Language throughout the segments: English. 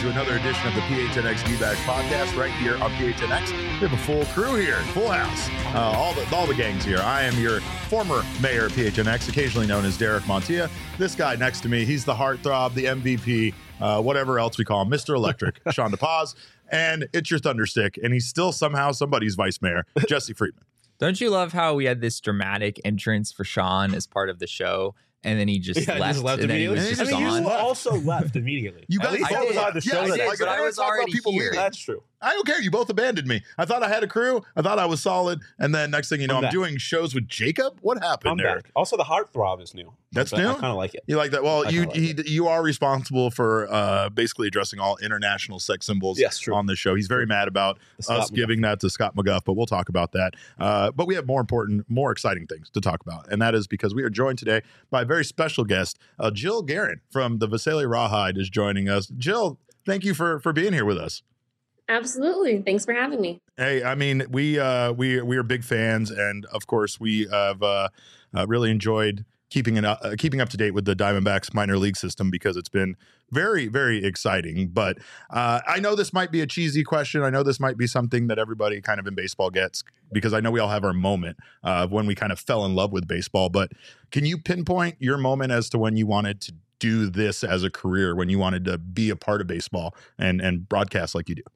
to another edition of the PHNX D-Bag podcast right here on PHNX. We have a full crew here, full house, all the gangs here. I am your former mayor of PHNX, occasionally known as Derek Montilla. This guy next to me, he's the heartthrob, the MVP, whatever else we call him, Mr. Electric, Sean DePaz. And it's your thunderstick, and he's still somehow somebody's vice mayor, Jesse Friedman. Don't you love how we had this dramatic entrance for Sean as part of the show? And then he just left. And then he was just gone. You also left immediately. You guys I was on the show. But I was already here. That's true. I don't care. You both abandoned me. I thought I had a crew. I thought I was solid. And then next thing you know, I'm doing shows with Jacob. What happened there? Back. Also, the heartthrob is new. That's new? I kind of like it. You like that? Well, you are responsible for basically addressing all international sex symbols on this show. He's very mad about us giving that to Scott McGuff, but we'll talk about that. But we have more important, more exciting things to talk about. And that is because we are joined today by a very special guest. Jill Guerin from the Visalia Rawhide is joining us. Jill, thank you for being here with us. Absolutely. Thanks for having me. Hey, I mean, we are big fans, and of course, we have really enjoyed keeping up to date with the Diamondbacks minor league system because it's been very, very exciting. But I know this might be a cheesy question. I know this might be something that everybody kind of in baseball gets because I know we all have our moment of when we kind of fell in love with baseball. But can you pinpoint your moment as to when you wanted to do this as a career, when you wanted to be a part of baseball and broadcast like you do?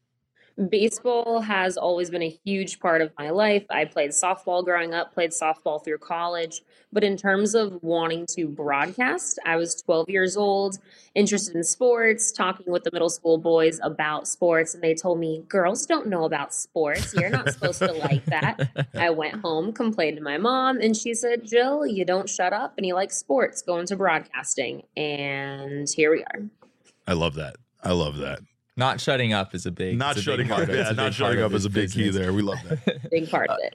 Baseball has always been a huge part of my life. I played softball growing up, played softball through college. But in terms of wanting to broadcast, I was 12 years old, interested in sports, talking with the middle school boys about sports. And they told me, girls don't know about sports. You're not supposed to like that. I went home, complained to my mom, and she said, Jill, you don't shut up and you like sports, go into broadcasting. And here we are. I love that. I love that. Not shutting up is a big. Not shutting up. Yeah, not shutting up is a big key there. We love that. Big part of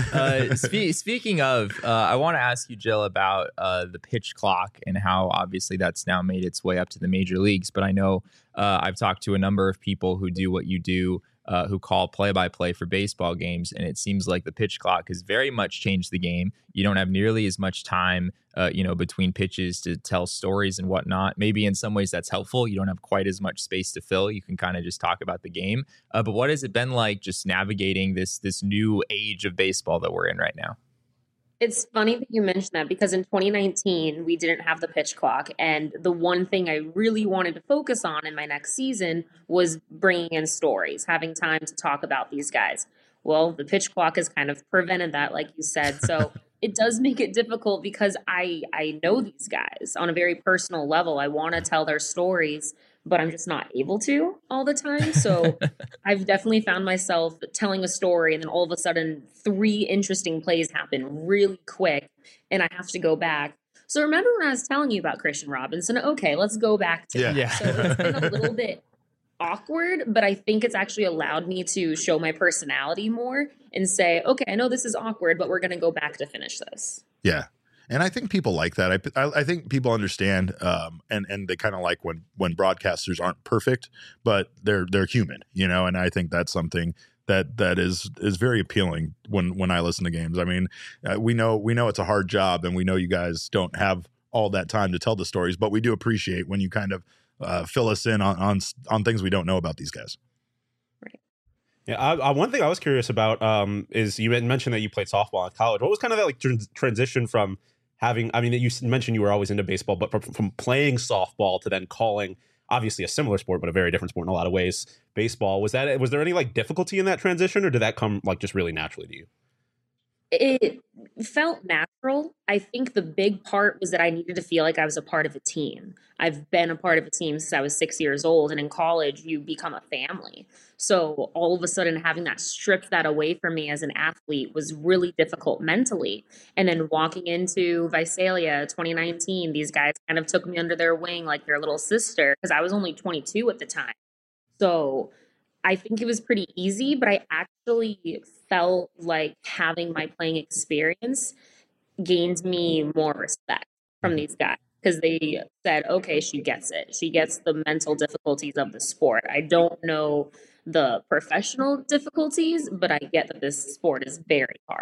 it. Speaking of, I want to ask you, Jill, about the pitch clock and how obviously that's now made its way up to the major leagues. But I know I've talked to a number of people who do what you do, who call play-by-play for baseball games, and it seems like the pitch clock has very much changed the game. You don't have nearly as much time, between pitches to tell stories and whatnot. Maybe in some ways that's helpful. You don't have quite as much space to fill. You can kind of just talk about the game. But what has it been like just navigating this new age of baseball that we're in right now? It's funny that you mentioned that because in 2019, we didn't have the pitch clock. And the one thing I really wanted to focus on in my next season was bringing in stories, having time to talk about these guys. Well, the pitch clock has kind of prevented that, like you said. So it does make it difficult because I know these guys on a very personal level. I want to tell their stories, but I'm just not able to all the time. So I've definitely found myself telling a story and then all of a sudden 3 interesting plays happen really quick and I have to go back. So remember when I was telling you about Christian Robinson? Okay, let's go back to that. So it's been a little bit awkward, but I think it's actually allowed me to show my personality more and say, okay, I know this is awkward, but we're going to go back to finish this. Yeah. And I think people like that. I think people understand, and they kind of like when broadcasters aren't perfect, but they're human, And I think that's something that is very appealing when I listen to games. I mean, we know it's a hard job, and we know you guys don't have all that time to tell the stories, but we do appreciate when you kind of fill us in on things we don't know about these guys. Yeah, one thing I was curious about is you mentioned that you played softball in college. What was kind of that like transition from having? I mean, you mentioned you were always into baseball, but from playing softball to then calling, obviously a similar sport, but a very different sport in a lot of ways, baseball. Was there any like difficulty in that transition, or did that come like just really naturally to you? It felt natural. I think the big part was that I needed to feel like I was a part of a team. I've been a part of a team since I was 6 years old, and in college, you become a family. So all of a sudden, having that stripped that away from me as an athlete was really difficult mentally. And then walking into Visalia 2019, these guys kind of took me under their wing like their little sister because I was only 22 at the time. So I think it was pretty easy, but I actually felt like having my playing experience gained me more respect from these guys because they said, okay, she gets it. She gets the mental difficulties of the sport. I don't know the professional difficulties, but I get that this sport is very hard.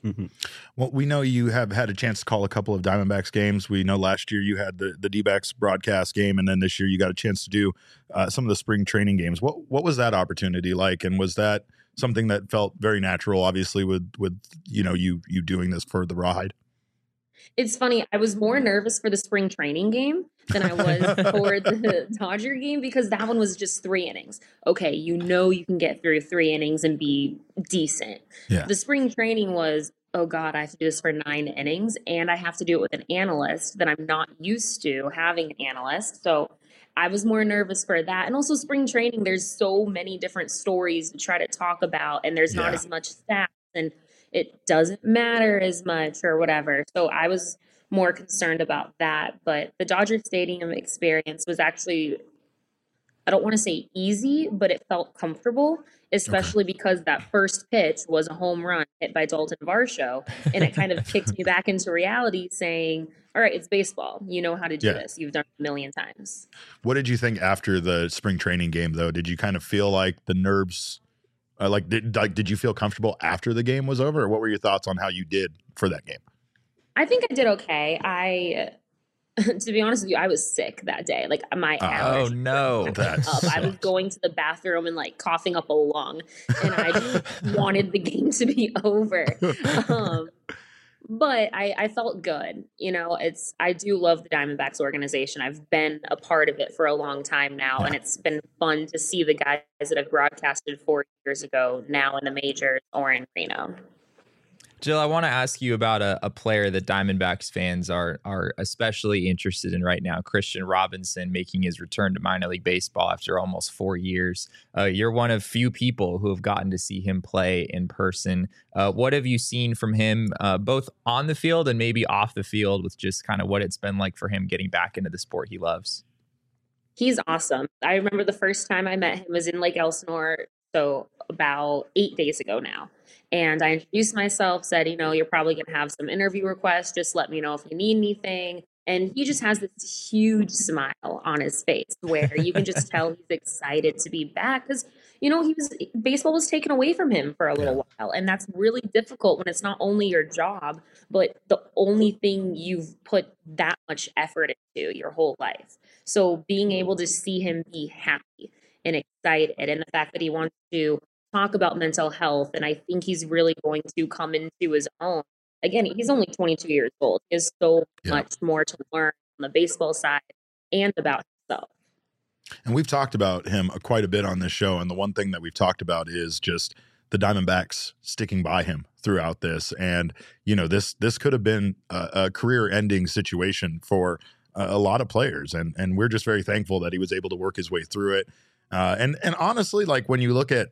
Mm-hmm. Well, we know you have had a chance to call a couple of Diamondbacks games. We know last year you had the D-backs broadcast game, and then this year you got a chance to do some of the spring training games. What was that opportunity like, and was that something that felt very natural, obviously, with you doing this for the Rawhide? It's funny. I was more nervous for the spring training game than I was for the Dodger game because that one was just 3 innings. Okay, you can get through 3 innings and be decent. Yeah. The spring training was, oh God, I have to do this for 9 innings and I have to do it with an analyst that I'm not used to having an analyst. So I was more nervous for that. And also spring training, there's so many different stories to try to talk about and there's not as much stats and it doesn't matter as much or whatever. So I was more concerned about that. But the Dodger Stadium experience was actually, I don't want to say easy, but it felt comfortable, especially because that first pitch was a home run hit by Dalton Varsho. And it kind of kicked me back into reality saying, all right, it's baseball. You know how to do this. You've done it a million times. What did you think after the spring training game, though? Did you kind of feel like the nerves... did you feel comfortable after the game was over, or what were your thoughts on how you did for that game? I think I did okay. To be honest with you, I was sick that day. Like my allergies. Oh no, I was going to the bathroom and like coughing up a lung, and I just wanted the game to be over. But I felt good. I do love the Diamondbacks organization. I've been a part of it for a long time now, and it's been fun to see the guys that I've broadcasted 4 years ago now in the majors or in Reno. Jill, I want to ask you about a player that Diamondbacks fans are especially interested in right now, Christian Robinson, making his return to minor league baseball after almost 4 years. You're one of few people who have gotten to see him play in person. What have you seen from him, both on the field and maybe off the field, with just kind of what it's been like for him getting back into the sport he loves? He's awesome. I remember the first time I met him was in Lake Elsinore, so about 8 days ago now. And I introduced myself, said, you're probably going to have some interview requests. Just let me know if you need anything. And he just has this huge smile on his face where you can just tell he's excited to be back because, baseball was taken away from him for a little while. And that's really difficult when it's not only your job, but the only thing you've put that much effort into your whole life. So being able to see him be happy and excited, and the fact that he wants to talk about mental health, and I think he's really going to come into his own. Again, he's only 22 years old. He has so much more to learn on the baseball side and about himself. And we've talked about him quite a bit on this show, and the one thing that we've talked about is just the Diamondbacks sticking by him throughout this. And, this could have been a career-ending situation for a lot of players, and we're just very thankful that he was able to work his way through it. And honestly, like when you look at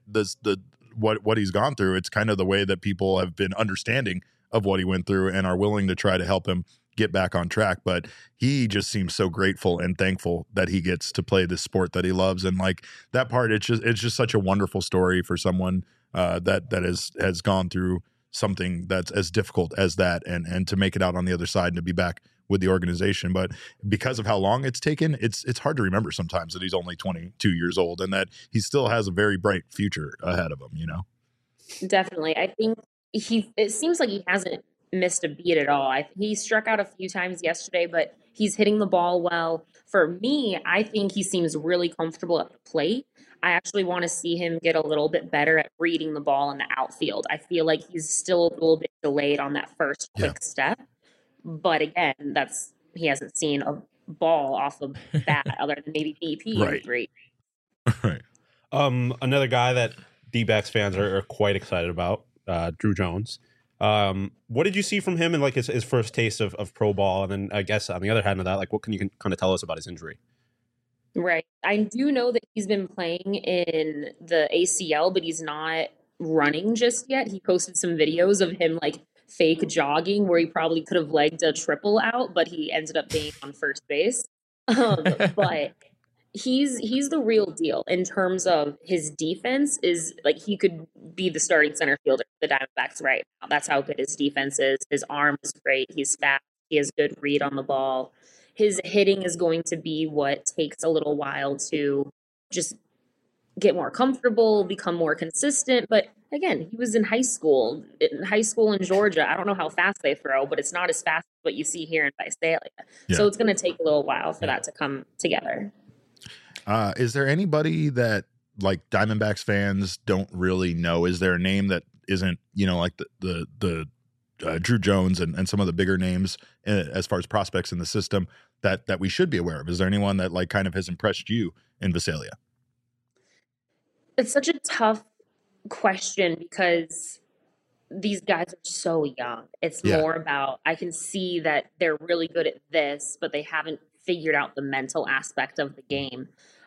what he's gone through, it's kind of the way that people have been understanding of what he went through and are willing to try to help him get back on track. But he just seems so grateful and thankful that he gets to play this sport that he loves. And like that part, it's just such a wonderful story for someone that has gone through something that's as difficult as that, and to make it out on the other side and to be back with the organization. But because of how long it's taken, it's hard to remember sometimes that he's only 22 years old and that he still has a very bright future ahead of him, Definitely. I think it seems like he hasn't missed a beat at all. He struck out a few times yesterday, but he's hitting the ball well. For me, I think he seems really comfortable at the plate. I actually want to see him get a little bit better at reading the ball in the outfield. I feel like he's still a little bit delayed on that first quick step. But again, he hasn't seen a ball off of bat other than maybe BP in 3. Right. Another guy that D-backs fans are quite excited about, Drew Jones. What did you see from him in like his first taste of pro ball? And then I guess on the other hand of that, like what can you kind of tell us about his injury? Right. I do know that he's been playing in the ACL, but he's not running just yet. He posted some videos of him like fake jogging where he probably could have legged a triple out, but he ended up being on first base. But he's the real deal in terms of his defense. Is like he could be the starting center fielder for the Diamondbacks right now. That's how good his defense is. His arm is great. He's fast. He has good read on the ball. His hitting is going to be what takes a little while to just get more comfortable, become more consistent. But again, he was in high school in Georgia. I don't know how fast they throw, but it's not as fast as what you see here in Visalia. Yeah. So it's going to take a little while for that to come together. Is there anybody that like Diamondbacks fans don't really know? Is there a name that isn't, like the Drew Jones and some of the bigger names as far as prospects in the system that we should be aware of? Is there anyone that like kind of has impressed you in Visalia? It's such a tough question because these guys are so young. It's more about, I can see that they're really good at this, but they haven't figured out the mental aspect of the game.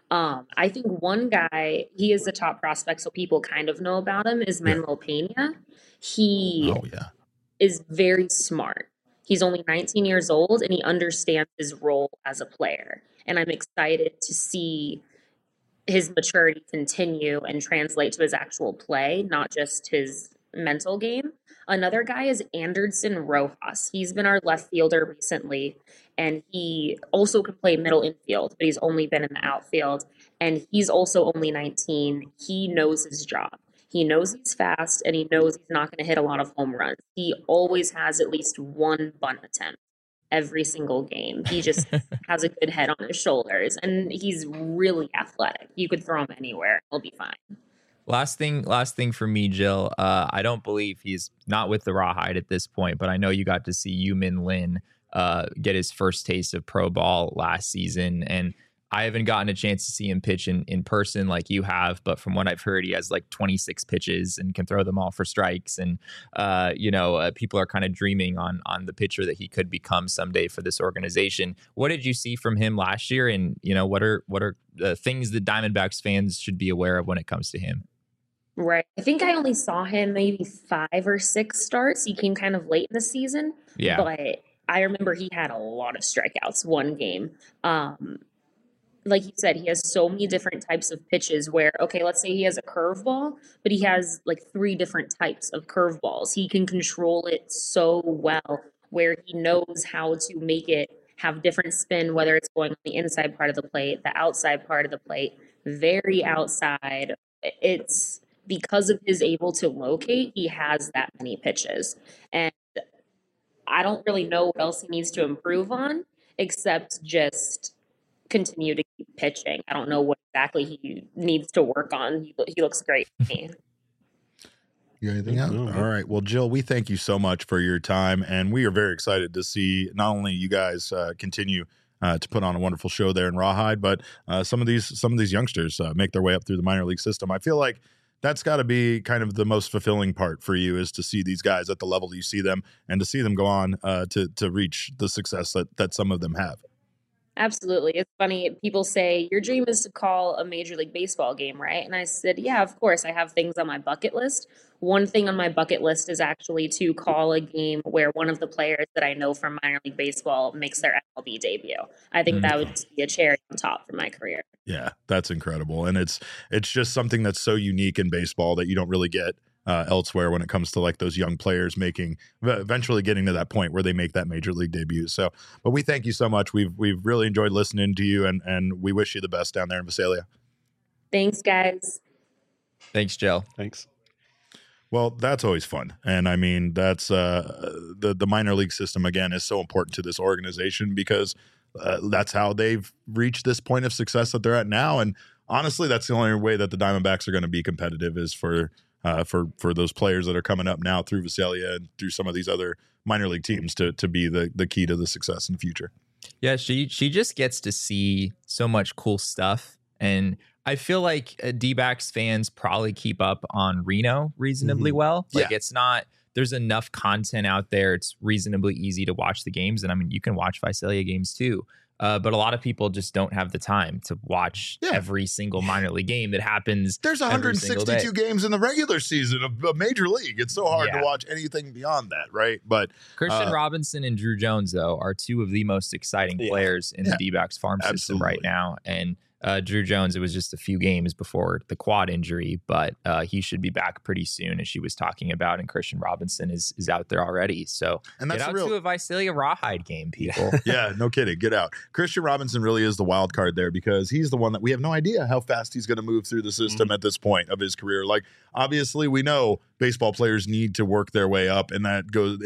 I think one guy, he is the top prospect, so people kind of know about him, is Manuel Pena. He is very smart. He's only 19 years old, and he understands his role as a player. And I'm excited to see his maturity continue and translate to his actual play, not just his mental game. Another guy is Anderson Rojas. He's been our left fielder recently, and he also can play middle infield, but he's only been in the outfield, and he's also only 19. He knows his job. He knows he's fast, and he knows he's not going to hit a lot of home runs. He always has at least one bunt attempt every single game. He just has a good head on his shoulders, and he's really athletic. You could throw him anywhere. He'll be fine. Last thing for me, Jill. I don't believe he's not with the Rawhide at this point, but I know you got to see Yu-Min Lin get his first taste of pro ball last season, and I haven't gotten a chance to see him pitch in person like you have, but from what I've heard, he has like 26 pitches and can throw them all for strikes. And, people are kind of dreaming on the pitcher that he could become someday for this organization. What did you see from him last year? And, what are the things that Diamondbacks fans should be aware of when it comes to him? Right. I think I only saw him maybe 5 or 6 starts. He came kind of late in the season. Yeah. But I remember he had a lot of strikeouts one game. Like you said, he has so many different types of pitches where, okay, let's say he has a curveball, but he has like 3 different types of curveballs. He can control it so well where he knows how to make it have different spin, whether it's going on the inside part of the plate, the outside part of the plate, very outside. It's because of his able to locate, he has that many pitches. And I don't really know what else he needs to improve on, except just continue to keep pitching. I don't know what exactly he needs to work on. He looks great to me. You got anything else? All right. Well, Jill, we thank you so much for your time, and we are very excited to see not only you guys continue to put on a wonderful show there in Rawhide, but some of these youngsters make their way up through the minor league system. I feel like that's got to be kind of the most fulfilling part for you, is to see these guys at the level you see them and to see them go on to reach the success that some of them have. Absolutely. It's funny. People say, your dream is to call a Major League Baseball game, right? And I said, yeah, of course. I have things on my bucket list. One thing on my bucket list is actually to call a game where one of the players that I know from minor league baseball makes their MLB debut. I think that would just be a cherry on top for my career. Yeah, that's incredible. And it's just something that's so unique in baseball that you don't really get elsewhere when it comes to like those young players eventually getting to that point where they make that major league debut. So, but we thank you so much. We've really enjoyed listening to you, and we wish you the best down there in Visalia. Thanks, guys. Thanks, Jill. Thanks. Well, that's always fun. And I mean, that's the minor league system, again, is so important to this organization because that's how they've reached this point of success that they're at now. And honestly, that's the only way that the Diamondbacks are going to be competitive, is for those players that are coming up now through Visalia and through some of these other minor league teams to be the key to the success in the future. Yeah, she just gets to see so much cool stuff. And I feel like D-backs fans probably keep up on Reno reasonably well. Like it's not, there's enough content out there. It's reasonably easy to watch the games. And I mean, you can watch Visalia games too. But a lot of people just don't have the time to watch every single minor league game that happens. There's 162 games in the regular season of a major league. It's so hard to watch anything beyond that, right? But Christian Robinson and Drew Jones, though, are 2 of the most exciting players in the D-backs farm system right now. And Drew Jones, it was just a few games before the quad injury, but he should be back pretty soon, as she was talking about. And Christian Robinson is out there already. So And that's get out the real- to a Visalia Rawhide game, people. Yeah, no kidding. Get out. Christian Robinson really is the wild card there because he's the one that we have no idea how fast he's going to move through the system at this point of his career. Like, obviously, we know baseball players need to work their way up, and that goes.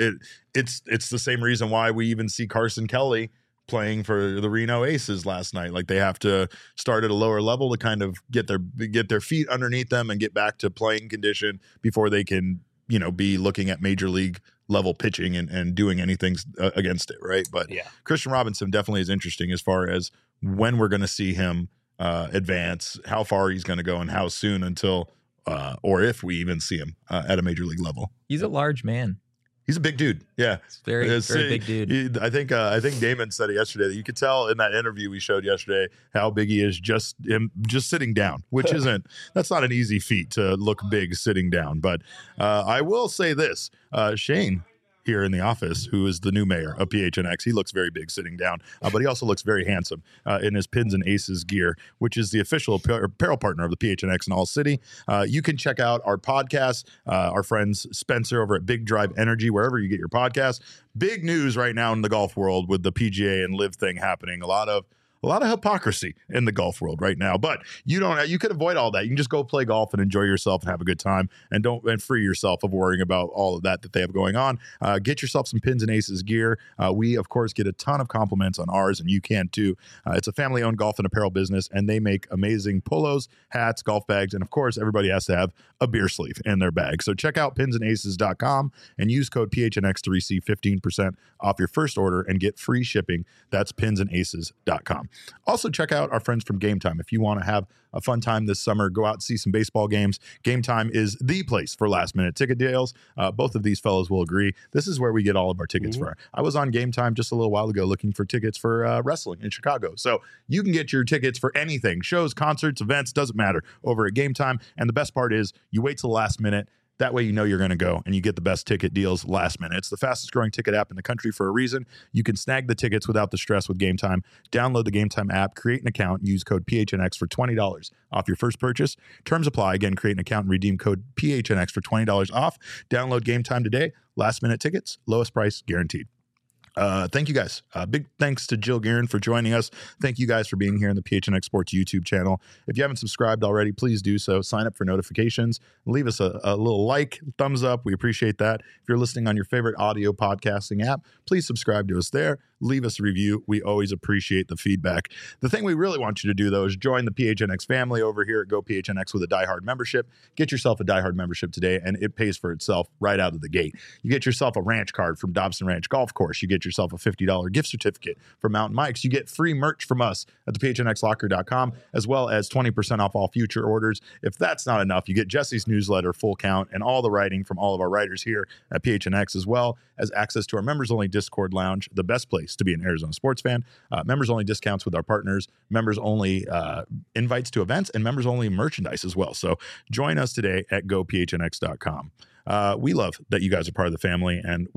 It's the same reason why we even see Carson Kelly playing for the Reno Aces last night. Like, they have to start at a lower level to kind of get their feet underneath them and get back to playing condition before they can, be looking at major league level pitching and doing anything against it, right? But Yeah. Christian Robinson definitely is interesting as far as when we're going to see him advance, how far he's going to go, and how soon until or if we even see him at a major league level. He's a large man. He's a big dude. Yeah. He's very big dude. I think Damon said it yesterday that you could tell in that interview we showed yesterday how big he is just sitting down, which that's not an easy feat to look big sitting down. But I will say this, Shane here in the office, who is the new mayor of PHNX, he looks very big sitting down, but he also looks very handsome in his Pins and Aces gear, which is the official apparel partner of the PHNX in All City. You can check out our podcast, our friends Spencer over at Big Drive Energy, wherever you get your podcasts. Big news right now in the golf world with the PGA and Live thing happening. A lot of hypocrisy in the golf world right now, but you can avoid all that. You can just go play golf and enjoy yourself and have a good time, and free yourself of worrying about all of that they have going on. Get yourself some Pins and Aces gear. We of course get a ton of compliments on ours, and you can too. It's a family-owned golf and apparel business, and they make amazing polos, hats, golf bags, and of course everybody has to have a beer sleeve in their bag. So check out pinsandaces.com and use code PHNX to receive 15% off your first order and get free shipping. That's pinsandaces.com. Also, check out our friends from Game Time. If you want to have a fun time this summer, go out and see some baseball games. Game Time is the place for last-minute ticket deals. Both of these fellows will agree. This is where we get all of our tickets for. I was on Game Time just a little while ago looking for tickets for wrestling in Chicago. So you can get your tickets for anything, shows, concerts, events, doesn't matter, over at Game Time. And the best part is you wait till the last minute. That way you know you're going to go and you get the best ticket deals last minute. It's the fastest growing ticket app in the country for a reason. You can snag the tickets without the stress with Game Time. Download the Game Time app, create an account, and use code PHNX for $20 off your first purchase. Terms apply. Again, create an account and redeem code PHNX for $20 off. Download Game Time today. Last minute tickets, lowest price guaranteed. Thank you guys. Big thanks to Jill Guerin for joining us. Thank you guys for being here in the PHNX Sports YouTube channel. If you haven't subscribed already, please do so. Sign up for notifications. Leave us a little like, thumbs up. We appreciate that. If you're listening on your favorite audio podcasting app, please subscribe to us there. Leave us a review. We always appreciate the feedback. The thing we really want you to do, though, is join the PHNX family over here at Go PHNX with a DieHard membership. Get yourself a DieHard membership today, and it pays for itself right out of the gate. You get yourself a ranch card from Dobson Ranch Golf Course. You get yourself a $50 gift certificate from Mountain Mike's. You get free merch from us at the PHNXlocker.com, as well as 20% off all future orders. If that's not enough, you get Jesse's newsletter, Full Count, and all the writing from all of our writers here at PHNX, as well as access to our members-only Discord lounge, the best place to be an Arizona sports fan. Members-only discounts with our partners, members-only invites to events, and members-only merchandise as well. So join us today at gophnx.com. We love that you guys are part of the family, and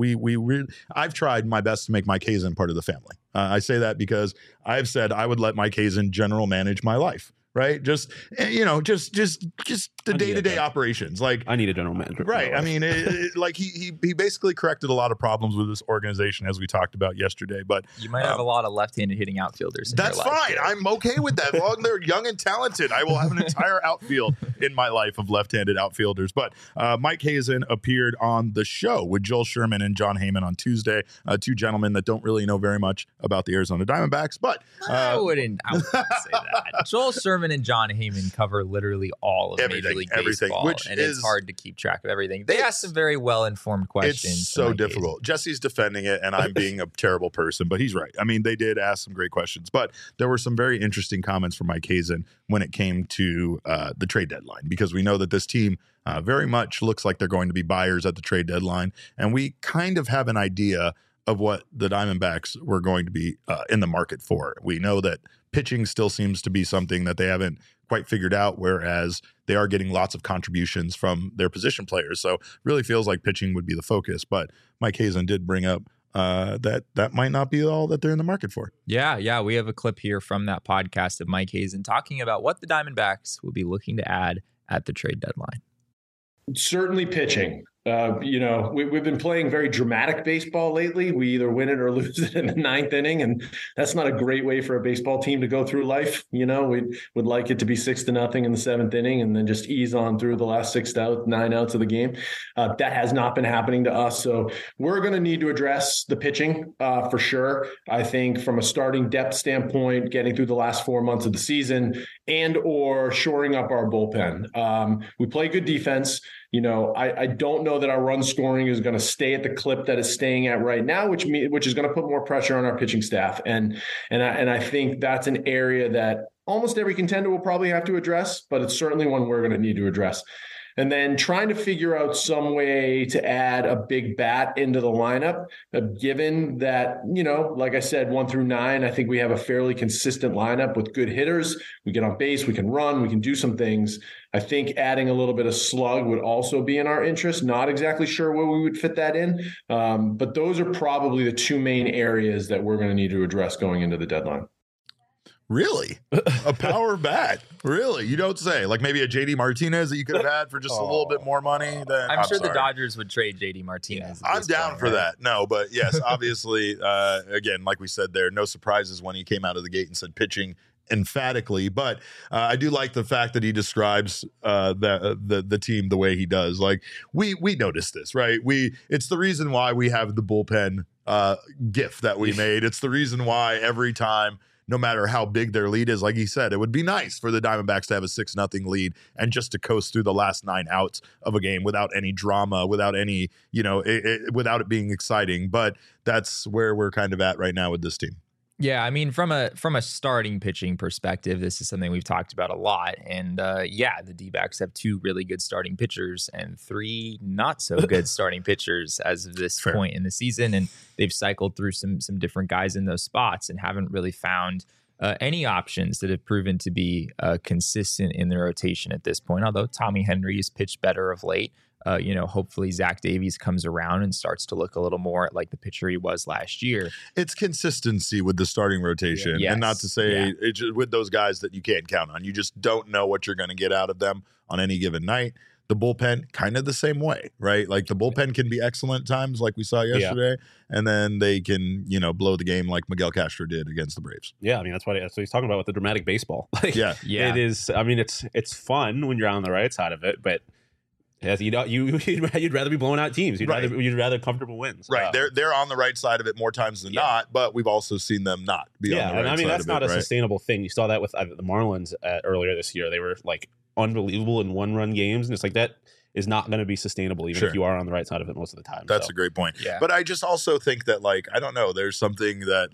I've tried my best to make Mike Hazen part of the family. I say that because I've said I would let Mike Hazen general manage my life. Right. Just the day-to-day operations. Like, I need a general manager. Right. I mean, like he basically corrected a lot of problems with this organization, as we talked about yesterday. But you might have a lot of left-handed hitting outfielders. That's fine. I'm okay with that. As long as they're young and talented, I will have an entire outfield in my life of left-handed outfielders. But Mike Hazen appeared on the show with Joel Sherman and John Heyman on Tuesday. Two gentlemen that don't really know very much about the Arizona Diamondbacks. But I wouldn't say that. Joel Sherman and John Heyman cover literally all of Major League Baseball, and it's hard to keep track of everything. They ask some very well-informed questions. It's so difficult. Jesse's defending it, and I'm being a terrible person, but he's right. I mean, they did ask some great questions, but there were some very interesting comments from Mike Hazen when it came to the trade deadline, because we know that this team very much looks like they're going to be buyers at the trade deadline, and we kind of have an idea of what the Diamondbacks were going to be in the market for. We know that pitching still seems to be something that they haven't quite figured out, whereas they are getting lots of contributions from their position players. So really feels like pitching would be the focus. But Mike Hazen did bring up that might not be all that they're in the market for. Yeah. We have a clip here from that podcast of Mike Hazen talking about what the Diamondbacks will be looking to add at the trade deadline. Certainly pitching. We've been playing very dramatic baseball lately. We either win it or lose it in the ninth inning, and that's not a great way for a baseball team to go through life. We'd like it to be 6-0 in the seventh inning and then just ease on through the last 9 outs of the game. That has not been happening to us. So we're going to need to address the pitching for sure. I think from a starting depth standpoint, getting through the last 4 months of the season and or shoring up our bullpen. We play good defense. I don't know that our run scoring is going to stay at the clip that it's staying at right now, which is going to put more pressure on our pitching staff. And I think that's an area that almost every contender will probably have to address, but it's certainly one we're going to need to address. And then trying to figure out some way to add a big bat into the lineup, given that, like I said, 1 through 9, I think we have a fairly consistent lineup with good hitters. We get on base, we can run, we can do some things. I think adding a little bit of slug would also be in our interest. Not exactly sure where we would fit that in, but those are probably the 2 main areas that we're going to need to address going into the deadline. Really? A power bat? Really? You don't say. Like maybe a JD Martinez that you could have had for just a little bit more money? Then I'm sure the Dodgers would trade JD Martinez. I'm down for that. No, but yes, obviously, again, like we said there, no surprises when he came out of the gate and said pitching emphatically. But I do like the fact that he describes the team the way he does. Like we noticed this, right? It's the reason why we have the bullpen gif that we made. It's the reason why every time, no matter how big their lead is, like he said, it would be nice for the Diamondbacks to have a 6-0 lead and just to coast through the last 9 outs of a game without any drama, without any, without it being exciting. But that's where we're kind of at right now with this team. Yeah, I mean, from a starting pitching perspective, this is something we've talked about a lot. And the D-backs have 2 really good starting pitchers and 3 not so good starting pitchers as of this point in the season. And they've cycled through some different guys in those spots and haven't really found any options that have proven to be consistent in the rotation at this point. Although Tommy Henry has pitched better of late. Hopefully Zach Davies comes around and starts to look a little more like the pitcher he was last year. It's consistency with the starting rotation, and not to say it's with those guys that you can't count on. You just don't know what you're going to get out of them on any given night. The bullpen, kind of the same way, right? Like the bullpen can be excellent at times, like we saw yesterday, and then they can, blow the game like Miguel Castro did against the Braves. Yeah, I mean that's what he's talking about with the dramatic baseball. Like, it is. I mean, it's fun when you're on the right side of it, but. Yes, you'd rather be blowing out teams. You'd rather comfortable wins. Right. They're on the right side of it more times than not, but we've also seen them not be on the right side of it. I mean, that's not a sustainable thing. You saw that with the Marlins earlier this year. They were like unbelievable in 1-run games, and it's like that is not going to be sustainable even if you are on the right side of it most of the time. That's a great point. Yeah. But I just also think that I don't know, there's something that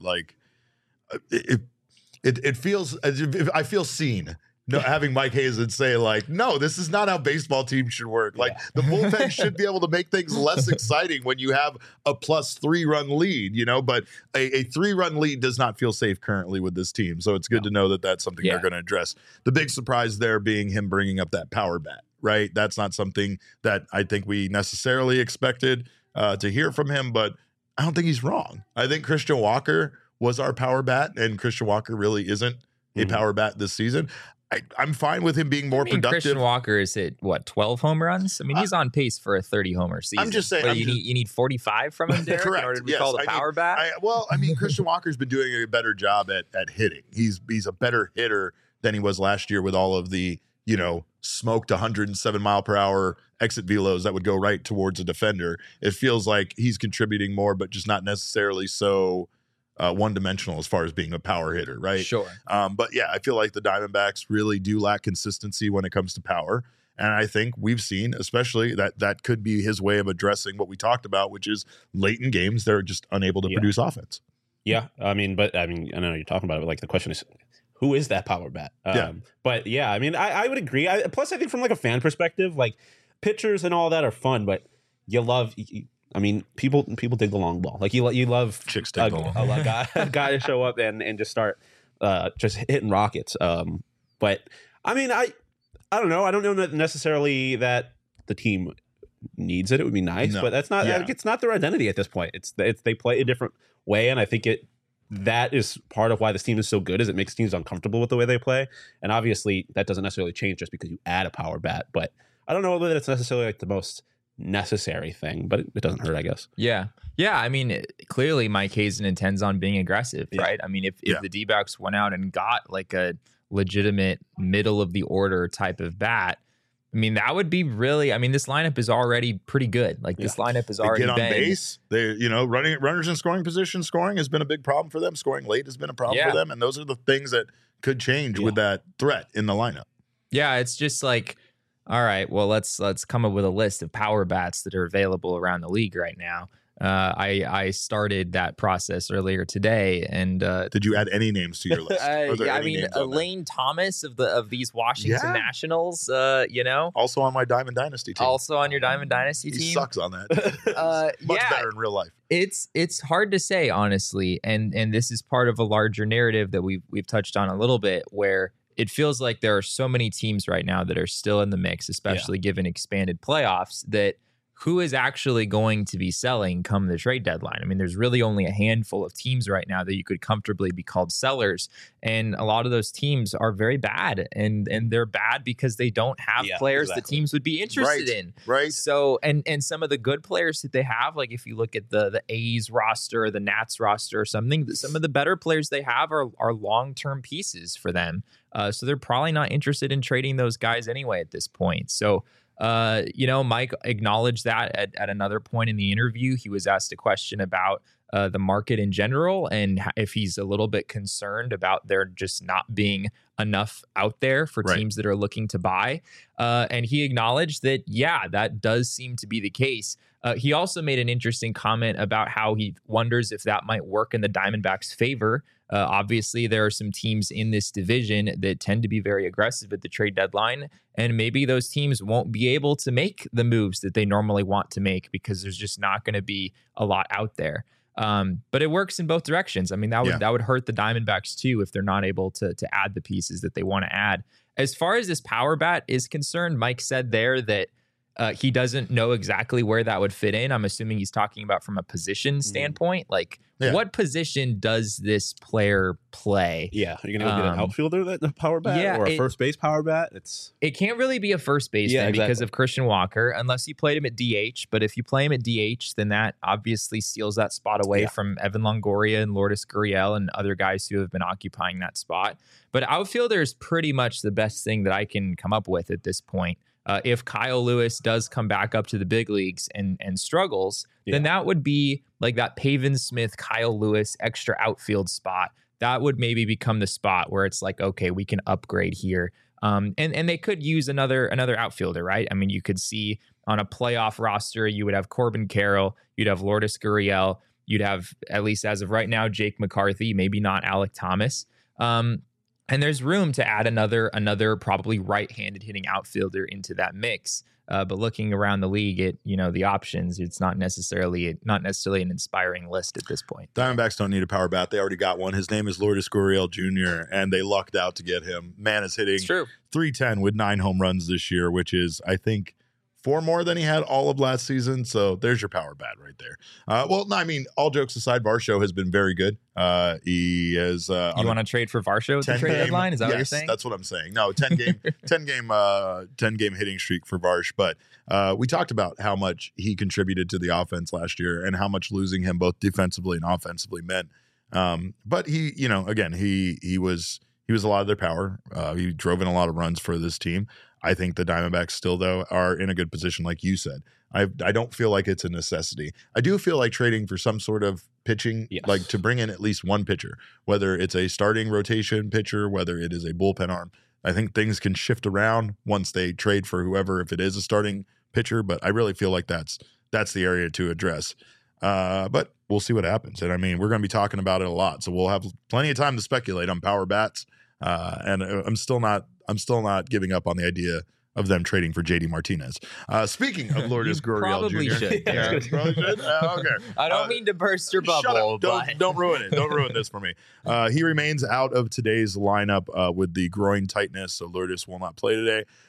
it feels as if I feel seen. No, having Mike Hazen say no, this is not how baseball teams should work. The bullpen should be able to make things less exciting when you have a plus 3-run lead, but a 3-run lead does not feel safe currently with this team. So it's good to know that that's something they're going to address. The big surprise there being him bringing up that power bat, right? That's not something that I think we necessarily expected to hear from him, but I don't think he's wrong. I think Christian Walker was our power bat, and Christian Walker really isn't a power bat this season. I'm fine with him being more productive. Christian Walker is at 12 home runs? I mean, he's on pace for a 30 homer season. I'm just saying. But you need 45 from him, Derek, correct. in order to be called a power bat? Christian Walker's been doing a better job at hitting. He's a better hitter than he was last year with all of the, smoked 107 mile per hour exit velos that would go right towards a defender. It feels like he's contributing more, but just not necessarily so one-dimensional as far as being a power hitter, right? Sure. But yeah, I feel like the Diamondbacks really do lack consistency when it comes to power. And I think we've seen, especially, that could be his way of addressing what we talked about, which is late in games, they're just unable to produce offense. Yeah. I know you're talking about it, but the question is, who is that power bat? But yeah, I mean, I would agree. Plus, I think from a fan perspective, pitchers and all that are fun, but you love... people dig the long ball. You love chicks dig the long ball. A guy to show up and just start just hitting rockets. But I mean, I don't know. I don't know necessarily that the team needs it. It would be nice, No. but that's not. Yeah. It's not their identity at this point. It's they play a different way, and I think that is part of why this team is so good. Is it makes teams uncomfortable with the way they play, and obviously that doesn't necessarily change just because you add a power bat. But I don't know whether it's necessarily like the most necessary thing, but it doesn't hurt, I guess. Yeah. I mean, clearly Mike Hazen intends on being aggressive, Yeah. right? I mean, if the D-backs went out and got like a legitimate middle of the order type of bat, I mean, that would be really, I mean, this lineup is already pretty good. Like this lineup has They already get on been base. They, running runners in scoring position, scoring has been a big problem for them. Scoring late has been a problem Yeah. for them. And those are the things that could change with that threat in the lineup. Yeah, it's just like, all right, well, let's come up with a list of power bats that are available around the league right now. I started that process earlier today, and Did you add any names to your list? Are there yeah, I any mean names on there? Elaine Thomas of these Washington Yeah. Nationals, Also on my Diamond Dynasty team. also on your Diamond Dynasty He team. sucks on that. Much yeah, better in real life. it's hard to say honestly, and this is part of a larger narrative that we've touched on a little bit, where it feels like there are so many teams right now that are still in the mix, especially given expanded playoffs, that who is actually going to be selling come the trade deadline? I mean, there's really only a handful of teams right now that you could comfortably be called sellers. And a lot of those teams are very bad. And they're bad because they don't have players that teams would be interested in. Right. So, and some of the good players that they have, like if you look at the A's roster or the Nats roster or something, some of the better players they have are long-term pieces for them. So they're probably not interested in trading those guys anyway at this point. So, Mike acknowledged that at another point in the interview. He was asked a question about the market in general and if he's a little bit concerned about there just not being enough out there for teams that are looking to buy. And he acknowledged that, that does seem to be the case. He also made an interesting comment about how he wonders if that might work in the Diamondbacks' favor. Obviously, there are some teams in this division that tend to be very aggressive at the trade deadline, and maybe those teams won't be able to make the moves that they normally want to make because there's just not going to be a lot out there. But it works in both directions. I mean, that would hurt the Diamondbacks too if they're not able to add the pieces that they want to add. As far as this power bat is concerned, Mike said there that he doesn't know exactly where that would fit in. I'm assuming he's talking about from a position standpoint. Like, what position does this player play? Yeah, are you going to go get an outfielder that the power bat or a first base power bat? It can't really be a first baseman because of Christian Walker, unless you played him at DH. But if you play him at DH, then that obviously steals that spot away from Evan Longoria and Lourdes Gurriel and other guys who have been occupying that spot. But outfielder is pretty much the best thing that I can come up with at this point. If Kyle Lewis does come back up to the big leagues and struggles, then that would be like that Pavin Smith, Kyle Lewis extra outfield spot. That would maybe become the spot where it's like, okay, we can upgrade here. And they could use another outfielder, right? I mean, you could see on a playoff roster, you would have Corbin Carroll, you'd have Lourdes Gurriel, you'd have, at least as of right now, Jake McCarthy, maybe not Alek Thomas. And there's room to add another probably right-handed hitting outfielder into that mix. But looking around the league, the options, it's not necessarily an inspiring list at this point. Diamondbacks don't need a power bat. They already got one. His name is Lourdes Gurriel Jr., and they lucked out to get him. Man is hitting 310 with 9 home runs this year, which is, I think, 4 more than he had all of last season. So there's your power bat right there. All jokes aside, Varsho has been very good. He is. You want to trade for Varsho at the trade deadline? Is that what you're saying? That's what I'm saying. No, 10 game hitting streak for Varsh. But we talked about how much he contributed to the offense last year and how much losing him both defensively and offensively meant. But he, he was a lot of their power. He drove in a lot of runs for this team. I think the Diamondbacks still, though, are in a good position, like you said. I don't feel like it's a necessity. I do feel like trading for some sort of pitching, like to bring in at least one pitcher, whether it's a starting rotation pitcher, whether it is a bullpen arm. I think things can shift around once they trade for whoever, if it is a starting pitcher. But I really feel like that's the area to address. But we'll see what happens. And I mean, we're going to be talking about it a lot, so we'll have plenty of time to speculate on power bats. And I'm still not giving up on the idea of them trading for JD Martinez. Speaking of Lourdes Gurriel probably Jr. should. Yeah, probably should. Okay. I don't mean to burst your bubble. Don't ruin it. Don't ruin this for me. He remains out of today's lineup with the groin tightness, so Lourdes will not play today.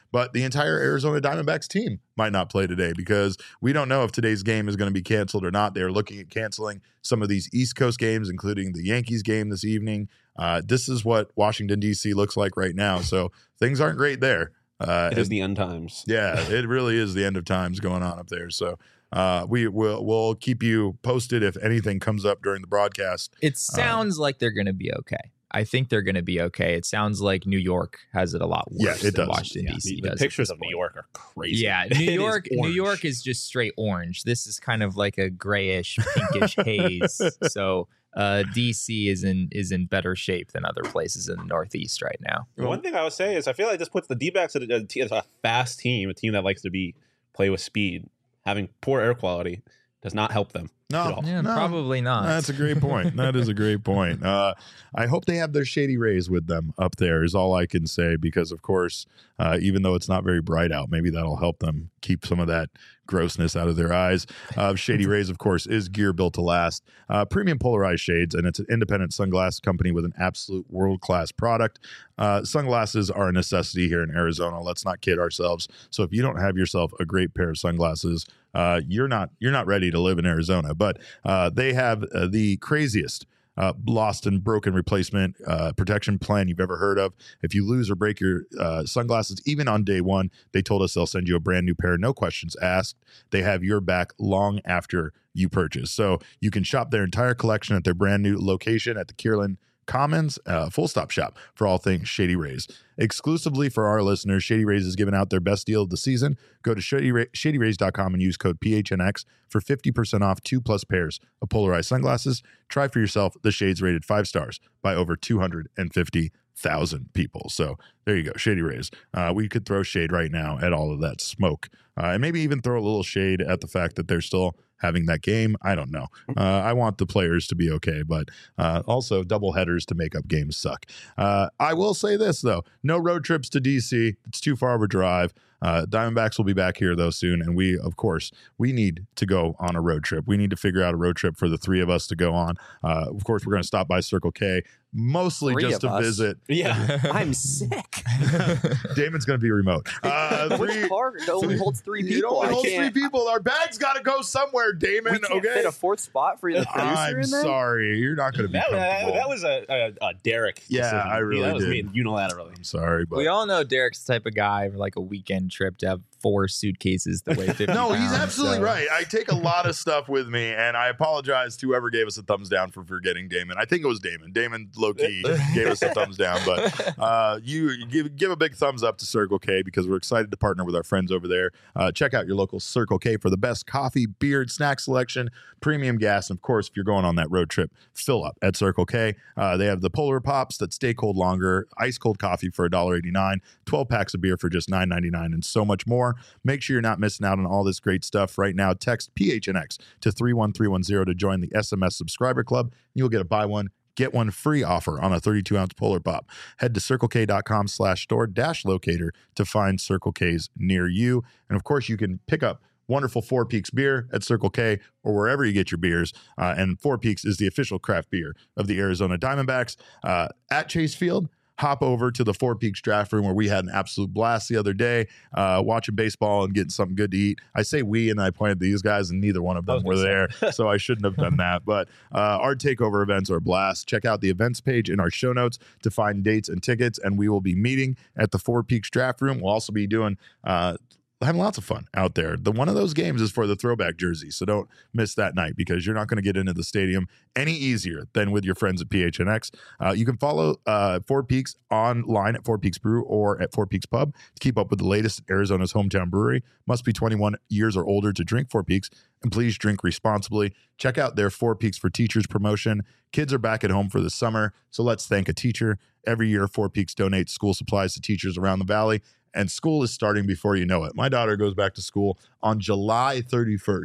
but the entire Arizona Diamondbacks team might not play today because we don't know if today's game is going to be canceled or not. They're looking at canceling some of these East Coast games, including the Yankees game this evening. This is what Washington, D.C. looks like right now. So things aren't great there. It is the end times. Yeah, it really is the end of times going on up there. So we'll keep you posted if anything comes up during the broadcast. It sounds like they're going to be okay. I think they're going to be okay. It sounds like New York has it a lot worse it than does. Washington, D.C. The does. pictures of New York are crazy. Yeah, New York is just straight orange. This is kind of like a grayish, pinkish haze. So DC is in better shape than other places in the Northeast right now. One thing I would say is I feel like this puts the D-backs as a fast team, a team that likes to play with speed. Having poor air quality does not help them. No, probably not. That's a great point. That is a great point. I hope they have their Shady Rays with them up there is all I can say, because of course, even though it's not very bright out, maybe that'll help them keep some of that grossness out of their eyes. Shady Rays, of course, is gear built to last. Premium polarized shades, and it's an independent sunglasses company with an absolute world-class product. Sunglasses are a necessity here in Arizona. Let's not kid ourselves. So if you don't have yourself a great pair of sunglasses, you're not ready to live in Arizona. But they have the craziest lost and broken replacement protection plan you've ever heard of. If you lose or break your sunglasses, even on day one, they told us they'll send you a brand new pair, no questions asked. They have your back long after you purchase. So you can shop their entire collection at their brand new location at the Kierland Commons, full stop shop for all things Shady Rays. Exclusively for our listeners, Shady Rays is giving out their best deal of the season. Go to shadyrays.com and use code PHNX for 50% off 2+ pairs of polarized sunglasses. Try for yourself the shades rated 5 stars by over 250,000 people. So there you go, Shady Rays. We could throw shade right now at all of that smoke, and maybe even throw a little shade at the fact that they're still having that game. I don't know. I want the players to be okay, but also double headers to make up games suck. I will say this, though. No road trips to DC. It's too far of a drive. Diamondbacks will be back here, though, soon. And we, of course, we need to go on a road trip. We need to figure out a road trip for the three of us to go on. Of course, we're going to stop by Circle K, mostly just to visit. Yeah. I'm sick. Damon's going to be remote. Which car? It only holds 3 people. It only holds 3 people. Our bag's got to go somewhere, Damon. We can't okay? fit a 4th spot for the producer I'm in there? sorry. You're not going to be comfortable. That was a Derek Yeah, decision. I really that was did. made unilaterally. I'm sorry, but We all know Derek's the type of guy for like a weekend trip to have 4 suitcases that weigh 50 no, he's pounds, absolutely so- right. I take a lot of stuff with me, and I apologize to whoever gave us a thumbs down for forgetting Damon. I think it was Damon. Damon low-key gave us a thumbs down, but you give a big thumbs up to Circle K because we're excited to partner with our friends over there. Check out your local Circle K for the best coffee, beer, and snack selection, premium gas, and of course, if you're going on that road trip, fill up at Circle K. They have the Polar Pops that stay cold longer, ice-cold coffee for $1.89, 12 packs of beer for just $9.99, and so much more. Make sure you're not missing out on all this great stuff right now. Text PHNX to 31310 to join the SMS subscriber club. You'll get a buy one, get one free offer on a 32-ounce Polar Pop. Head to circlek.com/store-locator to find Circle K's near you. And of course, you can pick up wonderful Four Peaks beer at Circle K or wherever you get your beers. And Four Peaks is the official craft beer of the Arizona Diamondbacks. At Chase Field, hop over to the Four Peaks draft room where we had an absolute blast the other day, watching baseball and getting something good to eat. I say we, and I pointed to these guys, and neither one of them were there, so I shouldn't have done that. But our takeover events are a blast. Check out the events page in our show notes to find dates and tickets, and we will be meeting at the Four Peaks draft room. We'll also be doing having lots of fun out there. One of those games is for the throwback jersey, so don't miss that night because you're not going to get into the stadium any easier than with your friends at PHNX. You can follow Four Peaks online at Four Peaks Brew or at Four Peaks Pub to keep up with the latest at Arizona's hometown brewery. Must be 21 years or older to drink Four Peaks, and please drink responsibly. Check out their Four Peaks for Teachers promotion. Kids are back at home for the summer, so let's thank a teacher. Every year, Four Peaks donates school supplies to teachers around the valley, and school is starting before you know it. My daughter goes back to school on July 31st.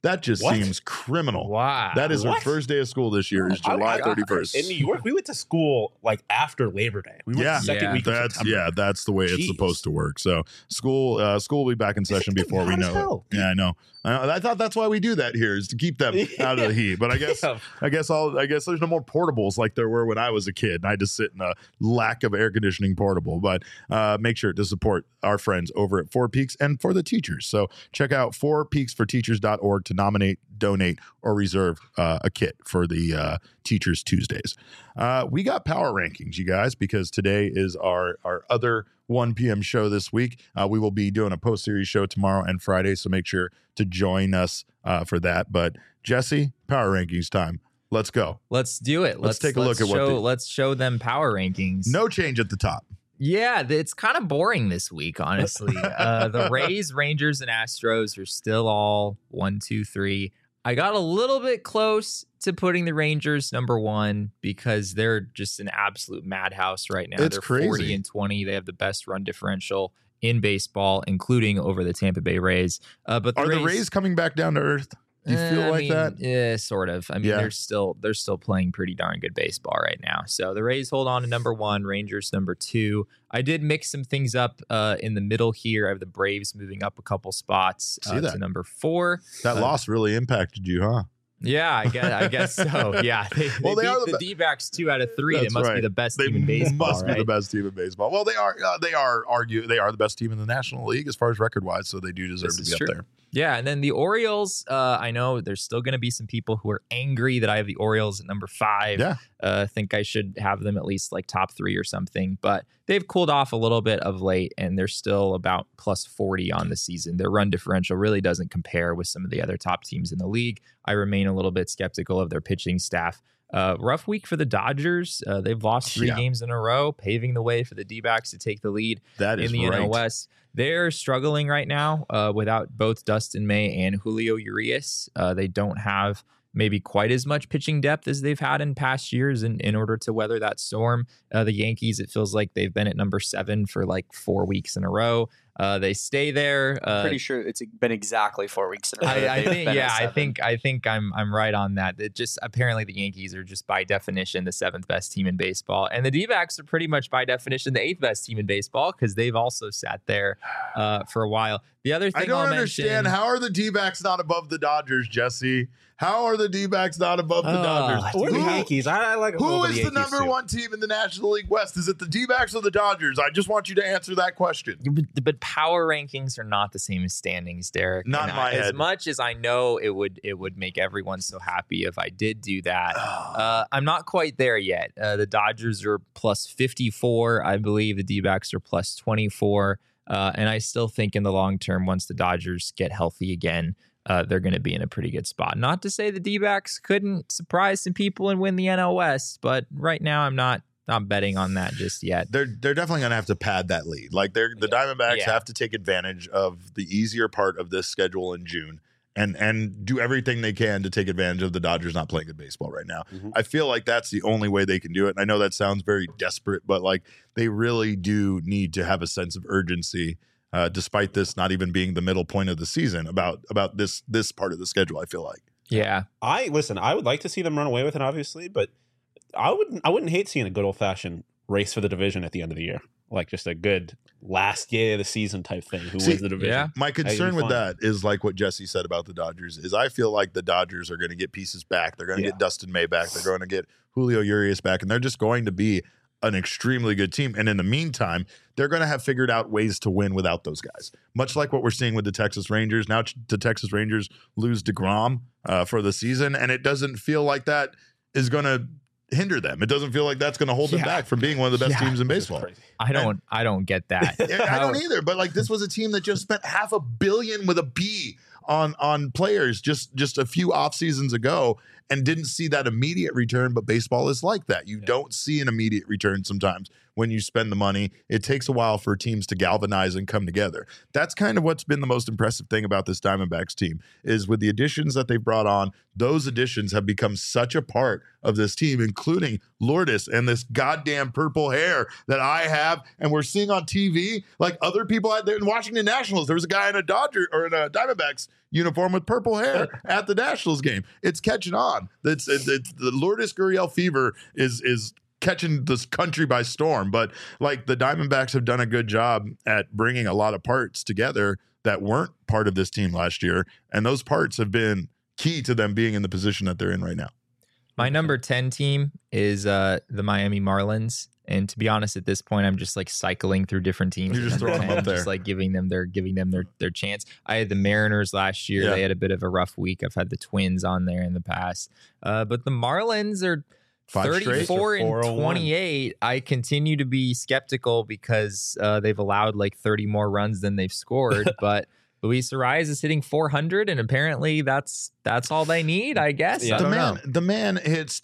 That just What? seems criminal. Wow. That is her What? first day of school this year is July 31st. In New York, we went to school like after Labor Day. We went Yeah. the second Yeah. week of September. That's the way it's Jeez. supposed to work. So school will be back in session It's before we hot as know it. hell. Yeah, I know. I thought that's why we do that here is to keep them out of the heat. But I guess there's no more portables like there were when I was a kid. And I just sit in a lack of air conditioning portable. But make sure to support our friends over at Four Peaks and for the teachers. So check out fourpeaksforteachers.org to nominate, donate, or reserve a kit for the Teachers Tuesdays. We got power rankings, you guys, because today is our other 1 p.m. show this week. We will be doing a post-series show tomorrow and Friday, so make sure to join us for that. But Jesse, power rankings time. Let's go. Let's do it. Let's take a look at what let's show them power rankings. No change at the top. Yeah, it's kind of boring this week, honestly. The Rays, Rangers, and Astros are still all 1, 2, 3. I got a little bit close to putting the Rangers number 1 because they're just an absolute madhouse right now. It's They're crazy. 40-20. They have the best run differential in baseball, including over the Tampa Bay Rays. But Are the Rays coming back down to earth? Do you feel like that? Yeah, sort of. I mean, Yeah. they're still playing pretty darn good baseball right now. So the Rays hold on to number 1, Rangers number 2. I did mix some things up in the middle here. I have the Braves moving up a couple spots See that. to number 4. That loss really impacted you, huh? Yeah, I guess so. Yeah, they Well, they are beat the D-backs 2 out of 3. They That's must right. be the best They team in baseball. must be right? the best team in baseball. Well, they are the best team in the National League as far as record wise, so they do deserve This to is be true. up there. Yeah, and then the Orioles, I know there's still going to be some people who are angry that I have the Orioles at number 5. Yeah. Think I should have them at least like top 3 or something, but they've cooled off a little bit of late, and they're still about plus 40 on the season. Their run differential really doesn't compare with some of the other top teams in the league. I remain a little bit skeptical of their pitching staff. Rough week for the Dodgers. They've lost 3 games in a row, paving the way for the D-backs to take the lead That is in the right. NL West. They're struggling right now without both Dustin May and Julio Urias. They don't have maybe quite as much pitching depth as they've had in past years in order to weather that storm. The Yankees, it feels like they've been at number 7 for like 4 weeks in a row. They stay there. Pretty sure it's been exactly 4 weeks in a row. that I they've think been yeah, at I 7. think I'm right on that. It just apparently the Yankees are just by definition the 7th best team in baseball, and the D-backs are pretty much by definition the 8th best team in baseball because they've also sat there for a while. The other thing I don't I'll understand. mention, How are the D-backs not above the Dodgers, Jesse? How are the D-backs not above the Dodgers? We're the Yankees. I like a little Who bit of is the Yankees, number too. 1 team in the National League West? Is it the D-backs or the Dodgers? I just want you to answer that question. But power rankings are not the same as standings, Derek. Not And in my As head. much as I know it would make everyone so happy if I did do that, I'm not quite there yet. The Dodgers are plus 54. I believe the D-backs are plus 24. And I still think in the long term, once the Dodgers get healthy again, they're going to be in a pretty good spot. Not to say the D-backs couldn't surprise some people and win the NL West, but right now I'm not betting on that just yet. They're definitely going to have to pad that lead. Like the Diamondbacks Yeah. have to take advantage of the easier part of this schedule in June and do everything they can to take advantage of the Dodgers not playing good baseball right now. Mhm. I feel like that's the only way they can do it. And I know that sounds very desperate, but like they really do need to have a sense of urgency, despite this not even being the middle point of the season about this part of the schedule. I feel like. Yeah. I would like to see them run away with it, obviously, but I wouldn't hate seeing a good old fashioned race for the division at the end of the year, like just a good last day of the season type thing. Who wins the division? yeah. My concern be with fun. that is like what Jesse said about the Dodgers is I feel like the Dodgers are going to get pieces back. They're going to Yeah. get Dustin May back. They're going to get Julio Urias back, and they're just going to be an extremely good team. And in the meantime, they're going to have figured out ways to win without those guys. Much like what we're seeing with the Texas Rangers. Now the Texas Rangers lose DeGrom for the season, and it doesn't feel like that is going to hinder them. It doesn't feel like that's going to hold them Yeah. back from being one of the best teams in This is baseball. crazy. I don't get that. I don't either, but like this was a team that just spent $500 million with a B on players just a few off seasons ago and didn't see that immediate return. But baseball is like that. You don't see an immediate return sometimes when you spend the money. It takes a while for teams to galvanize and come together. That's kind of what's been the most impressive thing about this Diamondbacks team is with the additions that they've brought on, those additions have become such a part of this team, including Lourdes and this goddamn purple hair that I have. And we're seeing on TV, like other people out there in Washington Nationals, there was a guy in a Diamondbacks uniform with purple hair at the Nationals game. It's catching on. It's the Lourdes Gurriel fever is catching this country by storm. But like the Diamondbacks have done a good job at bringing a lot of parts together that weren't part of this team last year, and those parts have been key to them being in the position that they're in right now. My number 10 team is the Miami Marlins. And to be honest, at this point, I'm just like cycling through different teams. You're just throwing them up there. Just like giving them their chance. I had the Mariners last year. Yeah. They had a bit of a rough week. I've had the Twins on there in the past. But the Marlins are 34 and 28. I continue to be skeptical because they've allowed like 30 more runs than they've scored. But Luis Ariz is hitting 400, and apparently that's all they need, I guess. Yeah. The man hits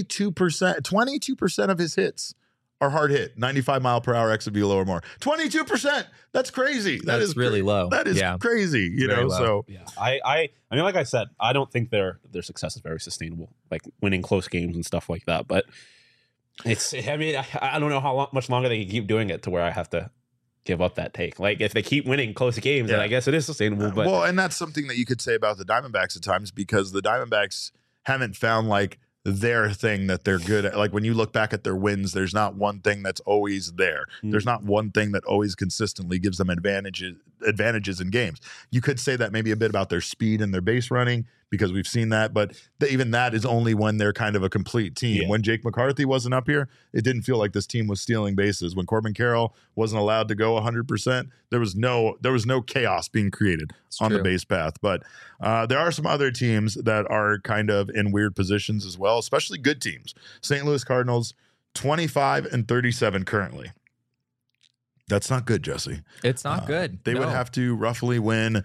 22% of his hits are hard hit, 95 mile per hour exit velo or more. 22%. That's crazy. That's really low. That is crazy. You Very know, low. so Yeah, I mean, like I said, I don't think their success is very sustainable, like winning close games and stuff like that. But it's, I mean, I don't know how much longer they can keep doing it to where I have to give up that take. Like if they keep winning close games, then I guess it is sustainable. But well, and that's something that you could say about the Diamondbacks at times, because the Diamondbacks haven't found like their thing that they're good at. Like when you look back at their wins, there's not one thing that's always there. There's not one thing that always consistently gives them advantages in games. You could say that maybe a bit about their speed and their base running, because we've seen that, but even that is only when they're kind of a complete team. When Jake McCarthy wasn't up here, it didn't feel like this team was stealing bases. When Corbin Carroll wasn't allowed to go 100%, there was no chaos being created on the base path. But there are some other teams that are kind of in weird positions as well, especially good teams. St. Louis Cardinals, 25 and 37 currently. That's not good, Jesse. It's not good. They would have to roughly win